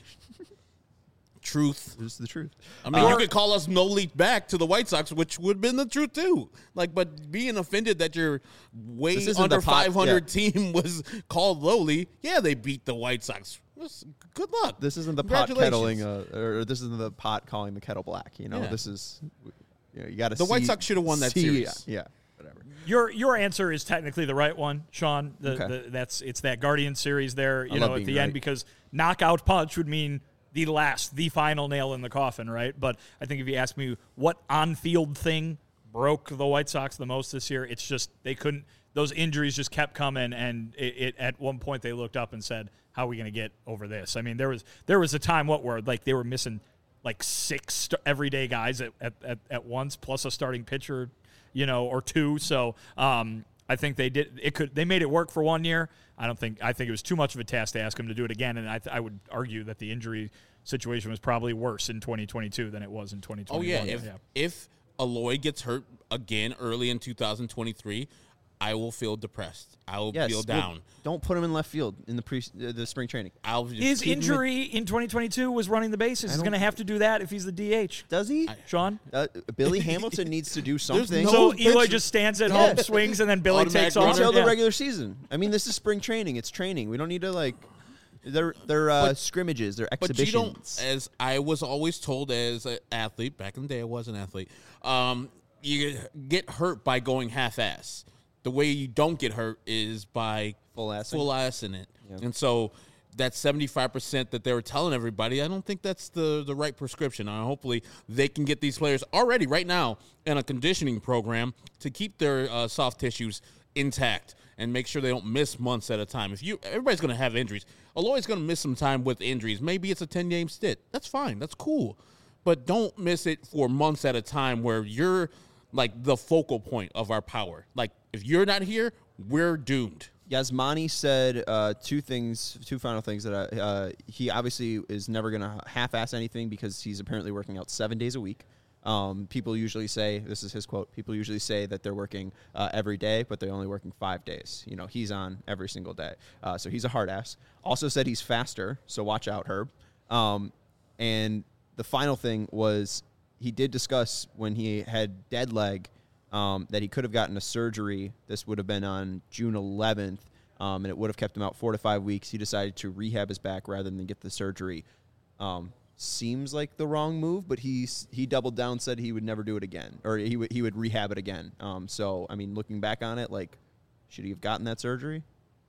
Truth. this is the truth. I mean, Uh, you could call us lowly back to the White Sox, which would have been the truth too. Like, but being offended that your way This isn't under the pot- five hundred yeah. team was called lowly. Yeah, they beat the White Sox. That's- Good luck. This isn't the pot Congratulations. kettling, uh, or this isn't the pot calling the kettle black. You know, Yeah. this is you, know, you got to. The White Sox should have won that see, series. Yeah, whatever. Your your answer is technically the right one, Sean. The, Okay. the, that's it's that Guardian series there, you I know, love at being the end right. because knockout punch would mean the last, the final nail in the coffin, right? But I think if you ask me what on-field thing broke the White Sox the most this year, it's just they couldn't. Those injuries just kept coming, and it, it at one point they looked up and said, "How are we going to get over this?" I mean, there was there was a time what where like they were missing like six st- everyday guys at, at, at, at once, plus a starting pitcher, you know, or two. So um, I think they did it. Could they made it work for one year? I don't think. I think it was too much of a task to ask them to do it again. And I, th- I would argue that the injury situation was probably worse in twenty twenty-two than it was in twenty Oh twenty-one. yeah, if if Aloy gets hurt again early in two thousand twenty-three, I will feel depressed. I will Yes, feel well, down. don't put him in left field in the pre uh, the spring training. I'll just his keep him in- injury in twenty twenty-two was running the bases. He's don't- going to have to do that if he's the D H. Does he? Sean. Uh, Billy Hamilton needs to do something. no- So pitcher- Eloy just stands at home, swings, and then Billy Automatic takes runner. off. until the Yeah. regular season. I mean, this is spring training. It's training. We don't need to like. They're they're uh, But- scrimmages. They're But you don't, exhibitions. as I was always told as an athlete, back in the day I was an athlete, um, you get hurt by going half-ass. The way you don't get hurt is by Full assing. full ass in it. And so that seventy-five percent that they were telling everybody, I don't think that's the, the right prescription. Uh, hopefully they can get these players already right now in a conditioning program to keep their uh, soft tissues intact and make sure they don't miss months at a time. If you everybody's going to have injuries. Aloy's going to miss some time with injuries. Maybe it's a ten-game stint. That's fine. That's cool. But don't miss it for months at a time where you're like the focal point of our power. Like if you're not here, we're doomed. Yasmani said uh, two things, two final things that I, uh, he obviously is never going to half-ass anything because he's apparently working out seven days a week. Um, people usually say, this is his quote, people usually say that they're working uh, every day, but they're only working five days. You know, he's on every single day. Uh, so he's a hard ass. Also said he's faster, so watch out, Herb. Um, and the final thing was he did discuss when he had dead leg um, that he could have gotten a surgery. This would have been on June eleventh, um, and it would have kept him out four to five weeks. He decided to rehab his back rather than get the surgery. Um, seems like the wrong move, but he he doubled down, said he would never do it again, or he would he would rehab it again. Um, so I mean, looking back on it, like, should he have gotten that surgery?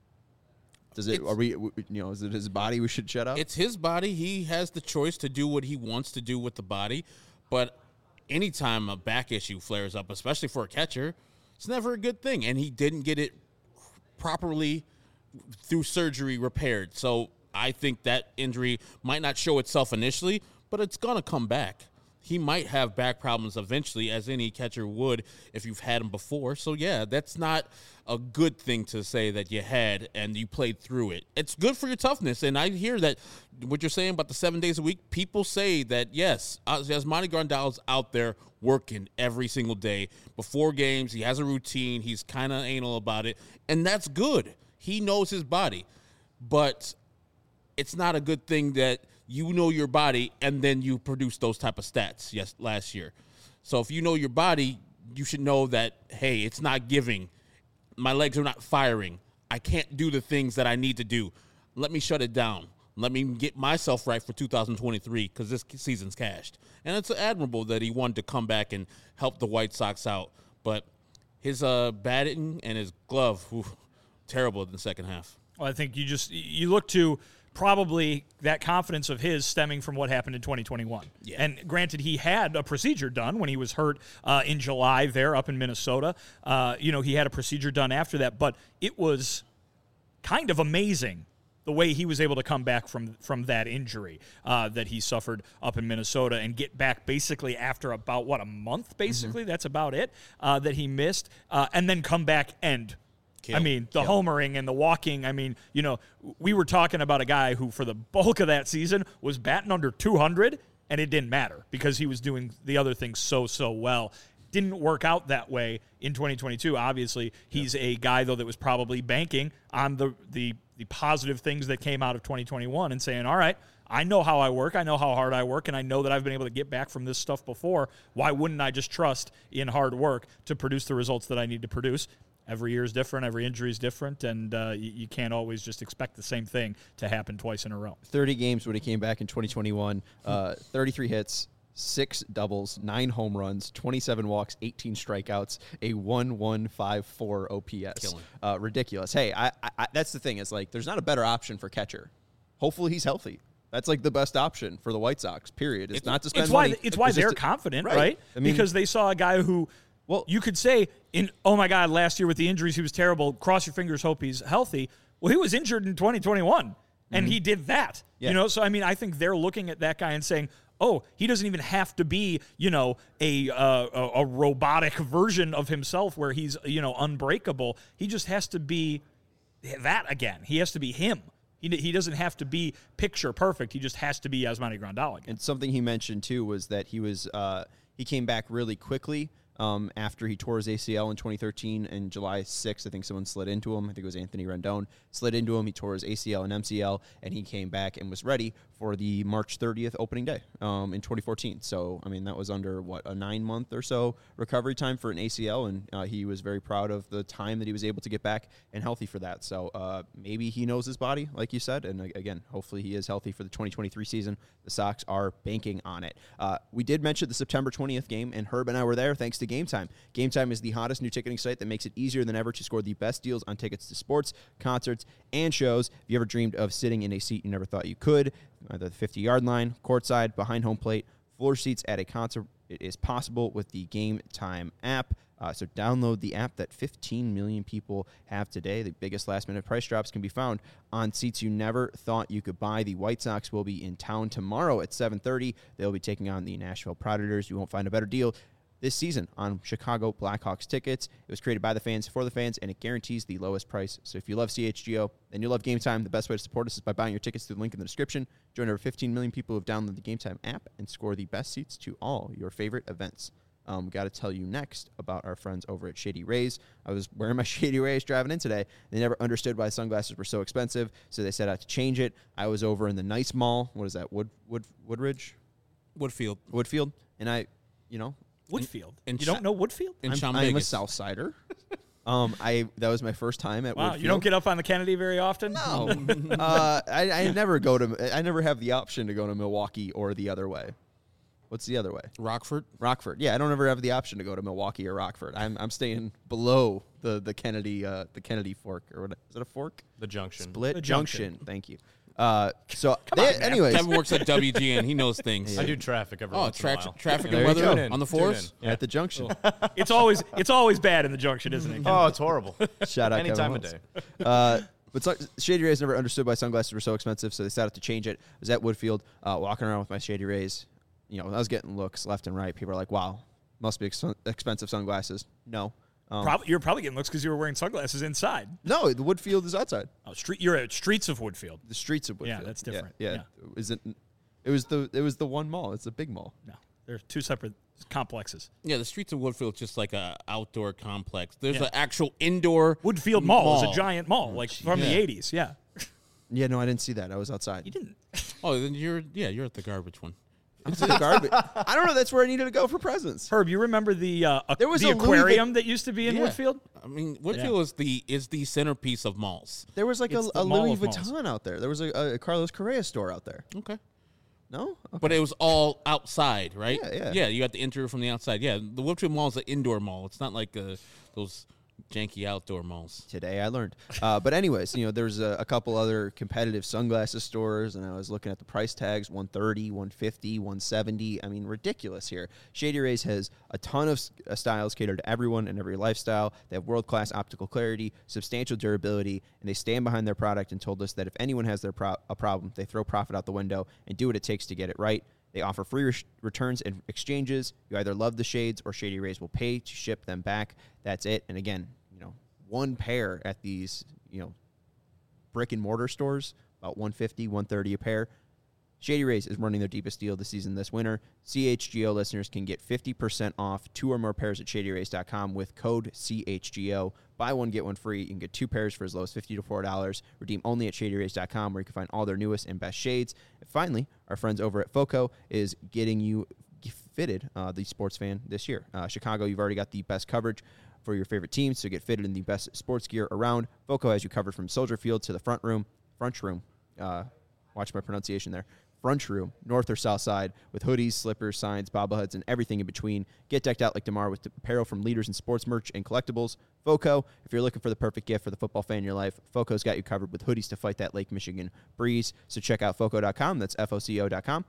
Does it? It's- Are we? You know, is it his body we should shut up? It's his body. He has the choice to do what he wants to do with the body. But anytime a back issue flares up, especially for a catcher, it's never a good thing. And he didn't get it properly through surgery repaired. So I think that injury might not show itself initially, but it's going to come back. He might have back problems eventually, as any catcher would if you've had them before. So, yeah, that's not a good thing to say that you had and you played through it. It's good for your toughness. And I hear that what you're saying about the seven days a week, people say that, yes, Yasmani Grandal's out there working every single day. Before games, he has a routine. He's kind of anal about it. And that's good. He knows his body. But it's not a good thing that you know your body and then you produce those type of stats yes last year. So if you know your body, you should know that, hey, it's not giving. My legs are not firing. I can't do the things that I need to do. Let me shut it down. Let me get myself right for two thousand twenty-three because this season's cashed. And it's admirable that he wanted to come back and help the White Sox out. But his uh, batting and his glove, whew, terrible in the second half. Well, I think you just you look to probably that confidence of his stemming from what happened in twenty twenty-one. Yeah. And granted, he had a procedure done when he was hurt uh, in July there up in Minnesota. Uh, you know, he had a procedure done after that, but it was kind of amazing the way he was able to come back from from that injury uh, that he suffered up in Minnesota and get back basically after about, what, a month, basically? Mm-hmm. That's about it, uh, that he missed, uh, and then come back and Kill. I mean, the Kill. homering and the walking. I mean, you know, we were talking about a guy who, for the bulk of that season, was batting under two hundred, and it didn't matter because he was doing the other things so, so well. Didn't work out that way in twenty twenty-two. Obviously, he's a guy, though, that was probably banking on the, the the positive things that came out of twenty twenty-one and saying, all right, I know how I work, I know how hard I work, and I know that I've been able to get back from this stuff before. Why wouldn't I just trust in hard work to produce the results that I need to produce? Every year is different, every injury is different, and uh, you, you can't always just expect the same thing to happen twice in a row. thirty games when he came back in twenty twenty-one, uh, thirty-three hits, six doubles, nine home runs, twenty-seven walks, eighteen strikeouts, a one one five four O P S. Uh, ridiculous. Hey, I, I, that's the thing. Is like there's not a better option for catcher. Hopefully he's healthy. That's like the best option for the White Sox, period. It's, it's not to spend it's money. Why, it's why it's they're to, confident, right? right? I mean, because they saw a guy who, well, you could say, in oh, my God, last year with the injuries, he was terrible. Cross your fingers, hope he's healthy. Well, he was injured in twenty twenty-one, and mm-hmm. he did that. Yeah. You know, so, I mean, I think they're looking at that guy and saying, oh, he doesn't even have to be, you know, a, uh, a a robotic version of himself where he's, you know, unbreakable. He just has to be that again. He has to be him. He, he doesn't have to be picture perfect. He just has to be Yasmani Grandal again. And something he mentioned, too, was that he was uh, he came back really quickly um, after he tore his A C L in twenty thirteen. And July sixth, I think someone slid into him. I think it was Anthony Rendon. Slid into him. He tore his A C L and M C L, and he came back and was ready for the March thirtieth opening day um, in twenty fourteen. So, I mean, that was under, what, a nine-month or so recovery time for an A C L, and uh, he was very proud of the time that he was able to get back and healthy for that. So uh, maybe he knows his body, like you said, and again, hopefully he is healthy for the twenty twenty-three season. The Sox are banking on it. Uh, we did mention the September twentieth game, and Herb and I were there thanks to Game Time. Game Time is the hottest new ticketing site that makes it easier than ever to score the best deals on tickets to sports, concerts, and shows. If you ever dreamed of sitting in a seat you never thought you could, either the fifty-yard line, courtside, behind home plate, floor seats at a concert, it is possible with the Game Time app. Uh, so download the app that fifteen million people have today. The biggest last-minute price drops can be found on seats you never thought you could buy. The White Sox will be in town tomorrow at seven thirty. They'll be taking on the Nashville Predators. You won't find a better deal this season on Chicago Blackhawks tickets. It was created by the fans for the fans, and it guarantees the lowest price. So if you love C H G O and you love Game Time, the best way to support us is by buying your tickets through the link in the description. Join over fifteen million people who have downloaded the Game Time app and score the best seats to all your favorite events. Um, got to tell you next about our friends over at Shady Rays. I was wearing my Shady Rays driving in today. They never understood why sunglasses were so expensive, so they set out to change it. I was over in the nice mall. What is that? Wood Wood Woodridge? Woodfield. Woodfield. And I, you know, Woodfield. In, in you don't know Woodfield? In I'm, I'm a South Sider. um, I that was my first time at wow, Woodfield. You don't get up on the Kennedy very often? No. uh, I, I never go to. I never have the option to go to Milwaukee or the other way. What's the other way? Rockford. Rockford. Yeah, I don't ever have the option to go to Milwaukee or Rockford. I'm I'm staying below the the Kennedy uh, the Kennedy fork or what is it a fork? The junction. Split the junction. junction. Thank you. Uh, so Come they, on, anyways, Kevin works at W G N. He knows things. I do traffic every Oh, once tra- in a while. traffic There and you weather go. on the Tune force. in. at the junction. It's always it's always bad in the junction, isn't it? Oh, it's horrible. Shout out Any Kevin time of Holmes. day. Uh, but so, Shady Rays never understood why sunglasses were so expensive, so they decided to change it. I was at Woodfield, uh, walking around with my Shady Rays. You know, I was getting looks left and right. People are like, "Wow, must be ex- expensive sunglasses." No, um, Probably, you're probably getting looks because you were wearing sunglasses inside. no. The Woodfield is outside. Oh, street. You're at Streets of Woodfield. The streets of Woodfield. Yeah, that's different. Yeah, Yeah. yeah. Is it? It was the it was the one mall. It's a big mall. No, they're two separate complexes. Yeah, the streets of Woodfield is just like a outdoor complex. There's Yeah. an actual indoor Woodfield Mall, mall. is a giant mall, like from Yeah. the eighties. Yeah, Yeah, no, I didn't see that. I was outside. you didn't. Oh, then you're yeah, you're at the garbage one. It's in the garbage. I don't know. That's where I needed to go for presents. Herb, you remember the uh, aqu- There was the a Louis aquarium that used to be in Yeah. Woodfield? I mean, Woodfield is the is the centerpiece of malls. There was like a, It's the a mall Louis of malls. Vuitton out there. There was a, a Carlos Correa store out there. Okay. No? Okay. But it was all outside, right? Yeah, yeah. Yeah, you got the interior from the outside. Yeah, the Woodfield Mall is an indoor mall. It's not like uh, those janky outdoor malls. Today I learned. Uh, but anyways, you know, there's a, a couple other competitive sunglasses stores, and I was looking at the price tags, one thirty, one fifty, one seventy. I mean, ridiculous here. Shady Rays has a ton of s- uh, styles catered to everyone and every lifestyle. They have world-class optical clarity, substantial durability, and they stand behind their product and told us that if anyone has their pro- a problem, they throw profit out the window and do what it takes to get it right. They offer free re- returns and exchanges. You either love the shades or Shady Rays will pay to ship them back. That's it. And again, you know, one pair at these, you know, brick and mortar stores, about one fifty, one thirty a pair. Shady Rays is running their deepest deal of the season this winter. C H G O listeners can get fifty percent off two or more pairs at shady rays dot com with code C H G O. Buy one, get one free. You can get two pairs for as low as fifty to four dollars. Redeem only at shady rays dot com, where you can find all their newest and best shades. And finally, our friends over at FOCO is getting you fitted, uh, the sports fan, this year. Uh, Chicago, you've already got the best coverage for your favorite teams, so get fitted in the best sports gear around. FOCO has you covered from Soldier Field to the front room, front room, uh, watch my pronunciation there, front room, north or south side, with hoodies, slippers, signs, bobbleheads, and everything in between. Get decked out like DeMar with apparel from leaders in sports merch and collectibles. FOCO, if you're looking for the perfect gift for the football fan in your life, FOCO's got you covered with hoodies to fight that Lake Michigan breeze. So check out foco dot com. That's F O C O dot com.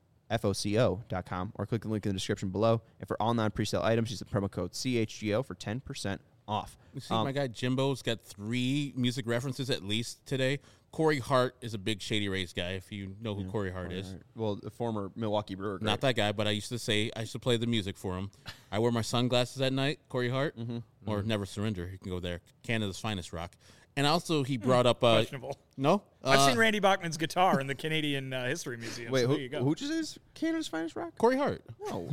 F O C O dot com, or click the link in the description below. And for all non-presale items, use the promo code C H G O for ten percent off. You see, Um, my guy Jimbo's got three music references at least today. Corey Hart is a big Shady Rays guy, if you know who Corey Hart is. Well, the former Milwaukee Brewer. Not that guy, but I used to say, I used to play the music for him. I wear my sunglasses at night, Corey Hart, Mm-hmm. or mm-hmm. Never Surrender. You can go there. Canada's finest rock. And also, he brought up. Uh, Questionable. No? I've Uh, seen Randy Bachman's guitar in the Canadian uh, History Museum. Wait, so who, there you go. who just is Canada's finest rock? Corey Hart. No.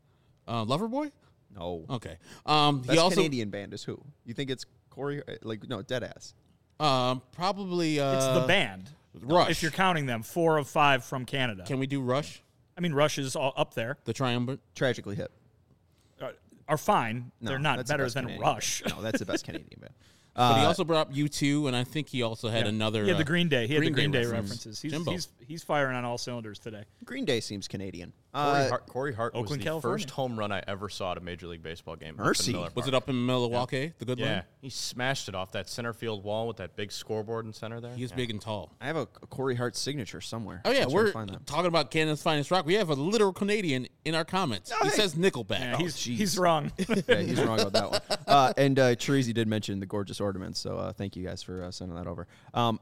Uh, Loverboy? No. Okay. Um, Best he also. Canadian band is who? You think it's Corey? Like, no, Deadass. Um, probably. Uh, It's the band. Rush. If you're counting them, four of five from Canada. Can we do Rush? I mean, Rush is all up there. The Triumvirate? Tragically Hip. Uh, are fine. No, They're not that's the better best than Canadian Rush. band. No, that's the best Canadian band. But he Uh, also brought up U two, and I think he also had Yeah. another. He had uh, the Green Day. He had Green the Green Day Day, reference. references. He's, Jimbo. he's he's firing on all cylinders today. Green Day seems Canadian. Corey Uh, Hart, Corey Hart was Oakland, the California. first home run I ever saw at a Major League Baseball game. up in Mercy. Miller Was Park. it up in Milwaukee, the good Yeah, one? he smashed it off that center field wall with that big scoreboard in center there. He is Yeah. big and tall. I have a, a Corey Hart signature somewhere. Oh, yeah, I'll try to we're find that. talking about Canada's finest rock. We have a literal Canadian in our comments. he hey. says Nickelback. Yeah, he's jeez. he's wrong. Yeah, he's wrong about that one. Uh, and uh, Therese did mention the gorgeous ornaments, so uh, thank you guys for uh, sending that over. Um,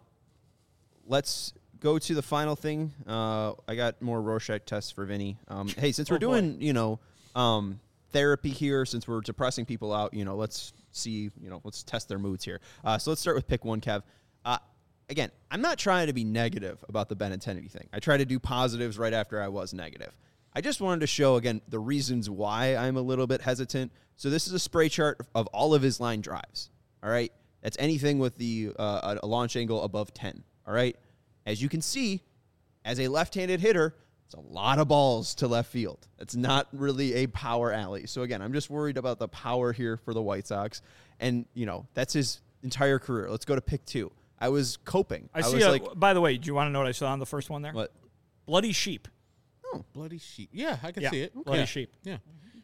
let's go to the final thing. Uh, I got more Rorschach tests for Vinny. Um, hey, since we're Oh, boy. doing, you know, um, therapy here, since we're depressing people out, you know, let's see, you know, let's test their moods here. Uh, so let's start with pick one, Kev. Uh, again, I'm not trying to be negative about the Benintendi thing. I try to do positives right after I was negative. I just wanted to show, again, the reasons why I'm a little bit hesitant. So this is a spray chart of all of his line drives, all right? That's anything with the uh, a launch angle above ten, all right? As you can see, as a left-handed hitter, it's a lot of balls to left field. It's not really a power alley. So, again, I'm just worried about the power here for the White Sox. And, you know, that's his entire career. Let's go to pick two. I was coping. I see. was A, like, by the way, do you want to know what I saw on the first one there? what? Bloody sheep. Bloody Sheep. Yeah, I can Yeah, see it. Bloody Yeah. Sheep. Yeah.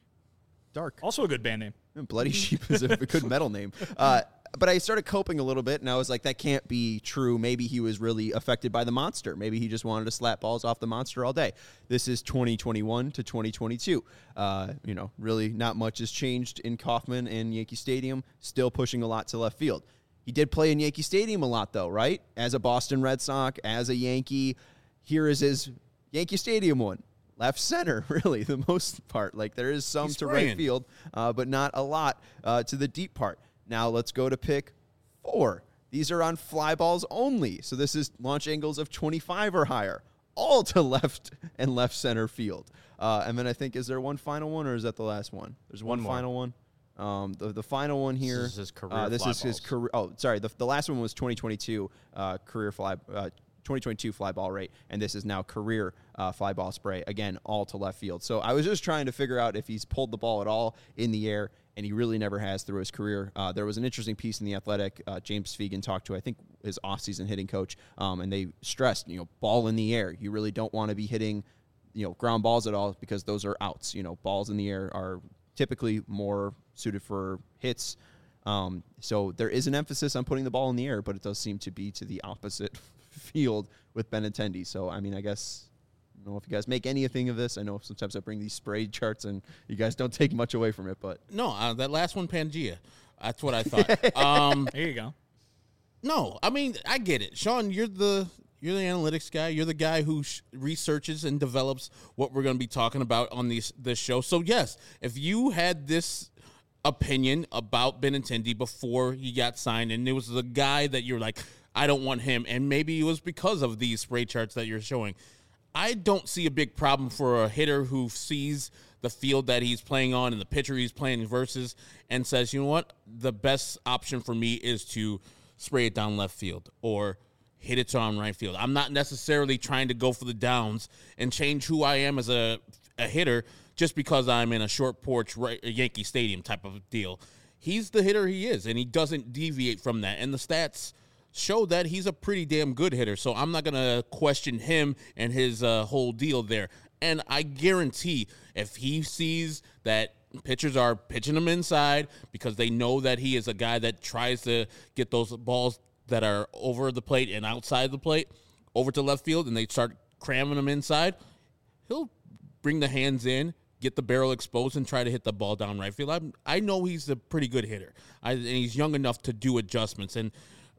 Dark. Also a good band name. Bloody Sheep is a good metal name. Uh, but I started coping a little bit, and I was like, that can't be true. Maybe he was really affected by the monster. Maybe he just wanted to slap balls off the monster all day. This is twenty twenty-one to twenty twenty-two. Uh, you know, really not much has changed in Kauffman and Yankee Stadium, still pushing a lot to left field. He did play in Yankee Stadium a lot, though, right? As a Boston Red Sox, as a Yankee. Here is his Yankee Stadium one. Left center, really, the most part. Like, there is some He's to spraying. right field, uh, but not a lot uh, to the deep part. Now, let's go to pick four. These are on fly balls only. So this is launch angles of twenty-five or higher, all to left and left center field. Uh, and then I think, is there one final one, or is that the last one? There's one, One more. final one. Um, the, the final one here. is his career Uh, this fly is his balls. career. Oh, sorry. The, the last one was twenty twenty-two uh, career fly. Uh, twenty twenty-two fly ball rate, and this is now career uh, fly ball spray, again, all to left field. So I was just trying to figure out if he's pulled the ball at all in the air, and he really never has through his career. Uh, there was an interesting piece in The Athletic. Uh, James Fegan talked to, I think, his offseason hitting coach, um, and they stressed, you know, ball in the air. You really don't want to be hitting, you know, ground balls at all because those are outs. You know, balls in the air are typically more suited for hits. Um, so there is an emphasis on putting the ball in the air, but it does seem to be to the opposite field with Benintendi. So, I mean, I guess, I don't know if you guys make anything of this. I know sometimes I bring these spray charts and you guys don't take much away from it, but. No, uh, that last one, Pangea. That's what I thought. um, There you go. no, I mean, I get it. Sean, you're the you're the analytics guy. You're the guy who sh- researches and develops what we're going to be talking about on these this show. So, yes, if you had this opinion about Benintendi before he got signed, and it was the guy that you're like, I don't want him, and maybe it was because of these spray charts that you're showing, I don't see a big problem for a hitter who sees the field that he's playing on and the pitcher he's playing versus and says, you know what, the best option for me is to spray it down left field or hit it on right field. I'm not necessarily trying to go for the downs and change who I am as a, a hitter just because I'm in a short porch right, Yankee Stadium type of deal. He's the hitter he is, and he doesn't deviate from that. And the stats show that he's a pretty damn good hitter, so I'm not going to question him and his uh, whole deal there. And I guarantee if he sees that pitchers are pitching him inside because they know that he is a guy that tries to get those balls that are over the plate and outside the plate over to left field, and they start cramming them inside, he'll bring the hands in, get the barrel exposed, and try to hit the ball down right field. I'm, I know he's a pretty good hitter, I, and he's young enough to do adjustments. And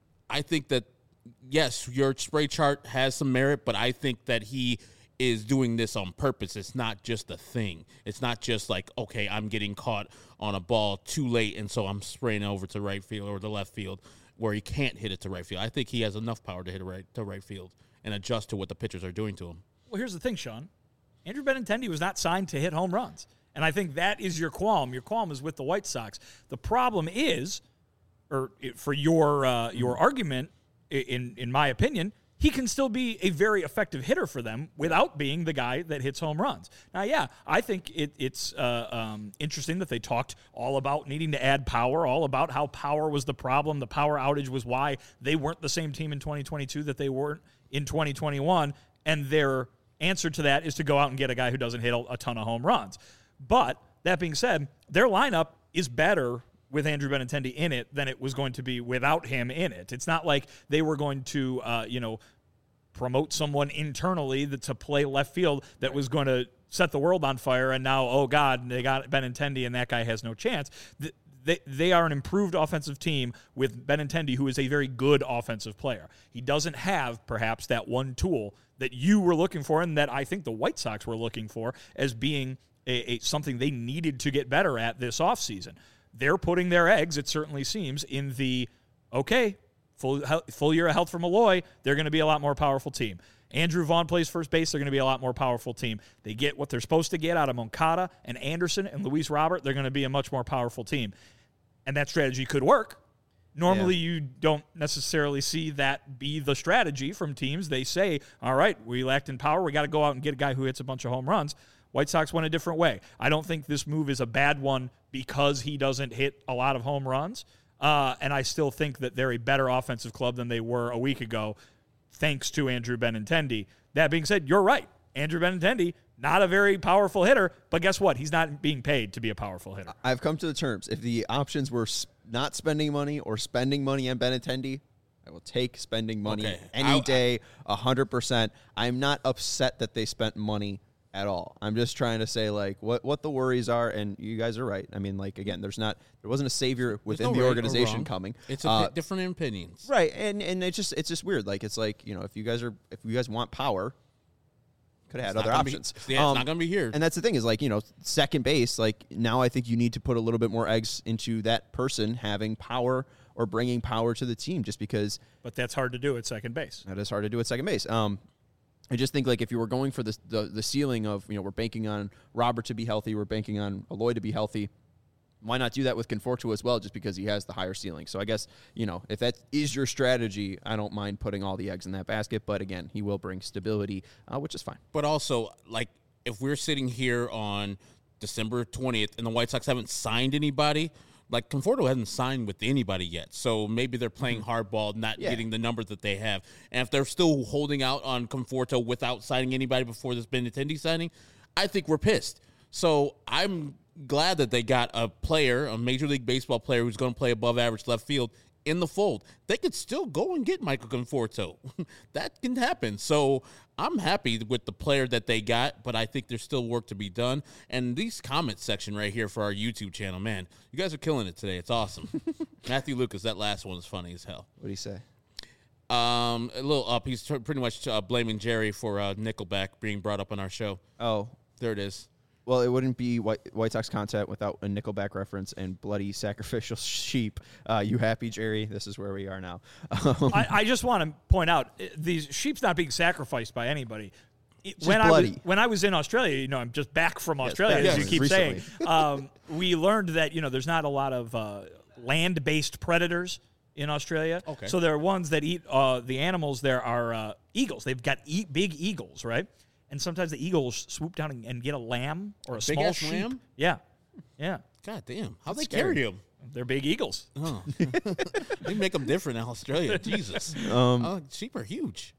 I think that, yes, your spray chart has some merit, but I think that he is doing this on purpose. It's not just a thing. It's not just like, okay, I'm getting caught on a ball too late, and so I'm spraying over to right field or the left field where he can't hit it to right field. I think he has enough power to hit it right to right field and adjust to what the pitchers are doing to him. Well, here's the thing, Sean. Andrew Benintendi was not signed to hit home runs. And I think that is your qualm. Your qualm is with the White Sox. The problem is, or for your uh, your argument, in in my opinion, he can still be a very effective hitter for them without being the guy that hits home runs. Now, yeah, I think it, it's uh, um, interesting that they talked all about needing to add power, all about how power was the problem. The power outage was why they weren't the same team in twenty twenty-two that they weren't in twenty twenty-one, and their answer to that is to go out and get a guy who doesn't hit a ton of home runs. But that being said, their lineup is better with Andrew Benintendi in it than it was going to be without him in it. It's not like they were going to, uh, you know, promote someone internally that, to play left field that was going to set the world on fire, and now, oh, God, they got Benintendi, and that guy has no chance. The, They, they are an improved offensive team with Benintendi, who is a very good offensive player. He doesn't have, perhaps, that one tool that you were looking for and that I think the White Sox were looking for as being a, a something they needed to get better at this offseason. They're putting their eggs, it certainly seems, in the, okay, full, full year of health for Malloy, they're going to be a lot more powerful team. Andrew Vaughn plays first base, they're going to be a lot more powerful team. They get what they're supposed to get out of Moncada and Anderson and Luis Robert, they're going to be a much more powerful team. And that strategy could work. Normally, yeah. You don't necessarily see that be the strategy from teams. They say, all right, we lacked in power. We got to go out and get a guy who hits a bunch of home runs. White Sox went a different way. I don't think this move is a bad one because he doesn't hit a lot of home runs. Uh, and I still think that they're a better offensive club than they were a week ago, thanks to Andrew Benintendi. That being said, you're right. Andrew Benintendi, not a very powerful hitter, but guess what? He's not being paid to be a powerful hitter. I've come to the terms. If the options were not spending money or spending money on Benintendi, I will take spending money okay. any I, day, one hundred percent. I'm not upset that they spent money at all. I'm just trying to say, like, what, what the worries are, and you guys are right. I mean, like, again, there's not there wasn't a savior within no the right organization coming. It's a uh, bit different opinions. Right, and and it's just it's just weird. Like, it's like, you know, if you guys are if you guys want power, could have had other options. Be, yeah, um, it's not going to be here. And that's the thing is, like, you know, second base, like, now I think you need to put a little bit more eggs into that person having power or bringing power to the team, just because. But that's hard to do at second base. That is hard to do at second base. Um, I just think, like, if you were going for the, the the ceiling of, you know, we're banking on Robert to be healthy, we're banking on Eloy to be healthy, why not do that with Conforto as well, just because he has the higher ceiling? So I guess, you know, if that is your strategy, I don't mind putting all the eggs in that basket. But again, he will bring stability, uh, which is fine. But also, like, if we're sitting here on December twentieth and the White Sox haven't signed anybody, like, Conforto hasn't signed with anybody yet. So maybe they're playing hardball, not Yeah. getting the numbers that they have. And if they're still holding out on Conforto without signing anybody before this Benintendi signing, I think we're pissed. So I'm glad that they got a player, a Major League Baseball player who's going to play above average left field in the fold. They could still go and get Michael Conforto. That can happen. So I'm happy with the player that they got, but I think there's still work to be done. And these comments section right here for our YouTube channel, man, you guys are killing it today. It's awesome. Matthew Lucas, that last one is funny as hell. What do you say? Um, a little up. He's t- pretty much uh, blaming Jerry for uh, Nickelback being brought up on our show. Oh, There it is. well, it wouldn't be White, White Sox content without a Nickelback reference and bloody sacrificial sheep. Uh, you happy, Jerry? This is where we are now. Um, I, I just want to point out, uh, these sheep's not being sacrificed by anybody. Just when I was bloody. when I was in Australia, you know, I'm just back from Australia, back as you keep recently. saying. Um, we learned that you know there's not a lot of uh, land-based predators in Australia. Okay. So there are ones that eat uh, the animals. There are uh, eagles. They've got e- big eagles, right? And sometimes the eagles swoop down and, and get a lamb or a, A small big-ass sheep. lamb? Yeah, yeah. God damn. How they scary. carry him? They're big eagles. Oh. They make them different in Australia. Jesus. Um, oh, sheep are huge.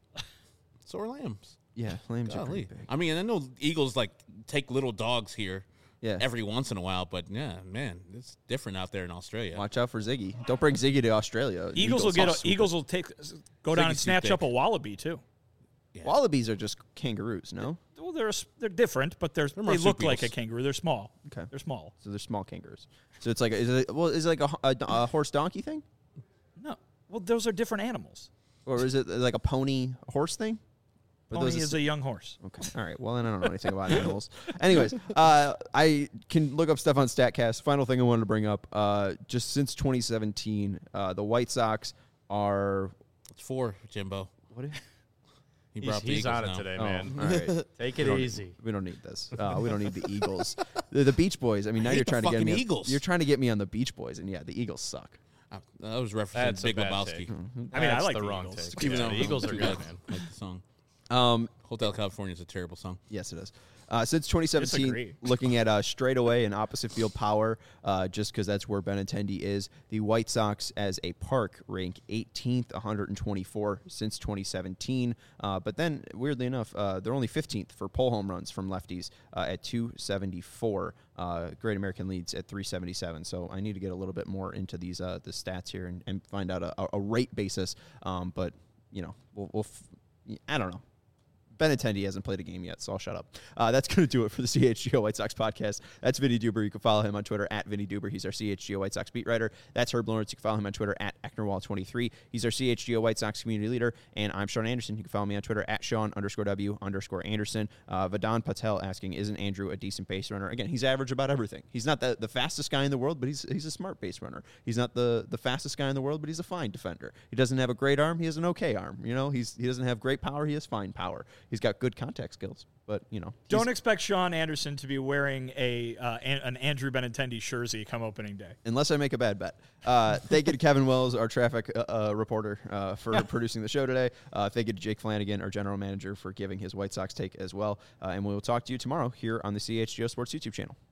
So are lambs. Yeah, lambs are Golly. pretty big. I mean, I know eagles like take little dogs here Yeah. every once in a while, but yeah, man, it's different out there in Australia. Watch out for Ziggy. Don't bring Ziggy to Australia. Eagles, will get a, swoop eagles will take go down and Ziggy's too snatch thick. up a wallaby too. it. Wallabies are just kangaroos, no? Well, they're s- they're different, but they're, they look marsupials. like a kangaroo. They're small. Okay. They're small. So they're small kangaroos. So it's like, is it, well, is it like a, a, a horse donkey thing? No, well, those are different animals. Or is it like a pony horse thing? Or Pony those is a young horse. Okay. All right. Well, then I don't know anything about animals. Anyways, uh, I can look up stuff on StatCast. Final thing I wanted to bring up, uh, just since twenty seventeen, uh, the White Sox are It's four, Jimbo. what? Is, He He's, brought the he's Eagles on it now. today, oh, man. all right. Take it We don't- easy. We don't need this. Uh, we don't need the Eagles. The, the Beach Boys. I mean, now hate you're the trying to get fucking me. Eagles. You're trying to get me on the Beach Boys, and yeah, the Eagles suck. Uh, that was referencing That's a Big bad Lebowski. take. I mean, I That's like the the wrong Eagles. take. Even Yeah, though the Eagles are too good, bad. man. Like the song. Um, Hotel California is a terrible song. Yes, it is. Uh, since twenty seventeen, Disagree. looking at uh, straightaway and opposite field power, uh, just because that's where Benintendi is, the White Sox as a park rank eighteenth, one hundred twenty-four since twenty seventeen. Uh, but then, weirdly enough, uh, they're only fifteenth for pull home runs from lefties uh, at two seventy-four. Uh, Great American leads at three seventy-seven. So I need to get a little bit more into these uh, the stats here and, and find out a, a rate basis. Um, but you know, we'll, we'll f- I don't know. Benintendi hasn't played a game yet, so I'll shut up. Uh, that's going to do it for the C H G O White Sox podcast. That's Vinny Duber. You can follow him on Twitter at Vinny Duber. He's our C H G O White Sox beat writer. That's Herb Lawrence. You can follow him on Twitter at Ecknerwall twenty-three. He's our C H G O White Sox community leader. And I'm Sean Anderson. You can follow me on Twitter at Sean underscore W underscore Anderson. Uh, Vadan Patel asking, isn't Andrew a decent base runner? Again, he's average about everything. He's not the, the fastest guy in the world, but he's he's a smart base runner. He's not the, the fastest guy in the world, but he's a fine defender. He doesn't have a great arm. He has an okay arm. You know, he's he doesn't have great power. He has fine power. He's got good contact skills, but you know, Don't expect Sean Anderson to be wearing a uh, an, an Andrew Benintendi jersey come opening day. unless I make a bad bet. Uh, thank you to Kevin Wells, our traffic uh, uh, reporter, uh, for producing the show today. Uh, thank you to Jake Flanagan, our general manager, for giving his White Sox take as well. Uh, and we will talk to you tomorrow here on the C H G O Sports YouTube channel.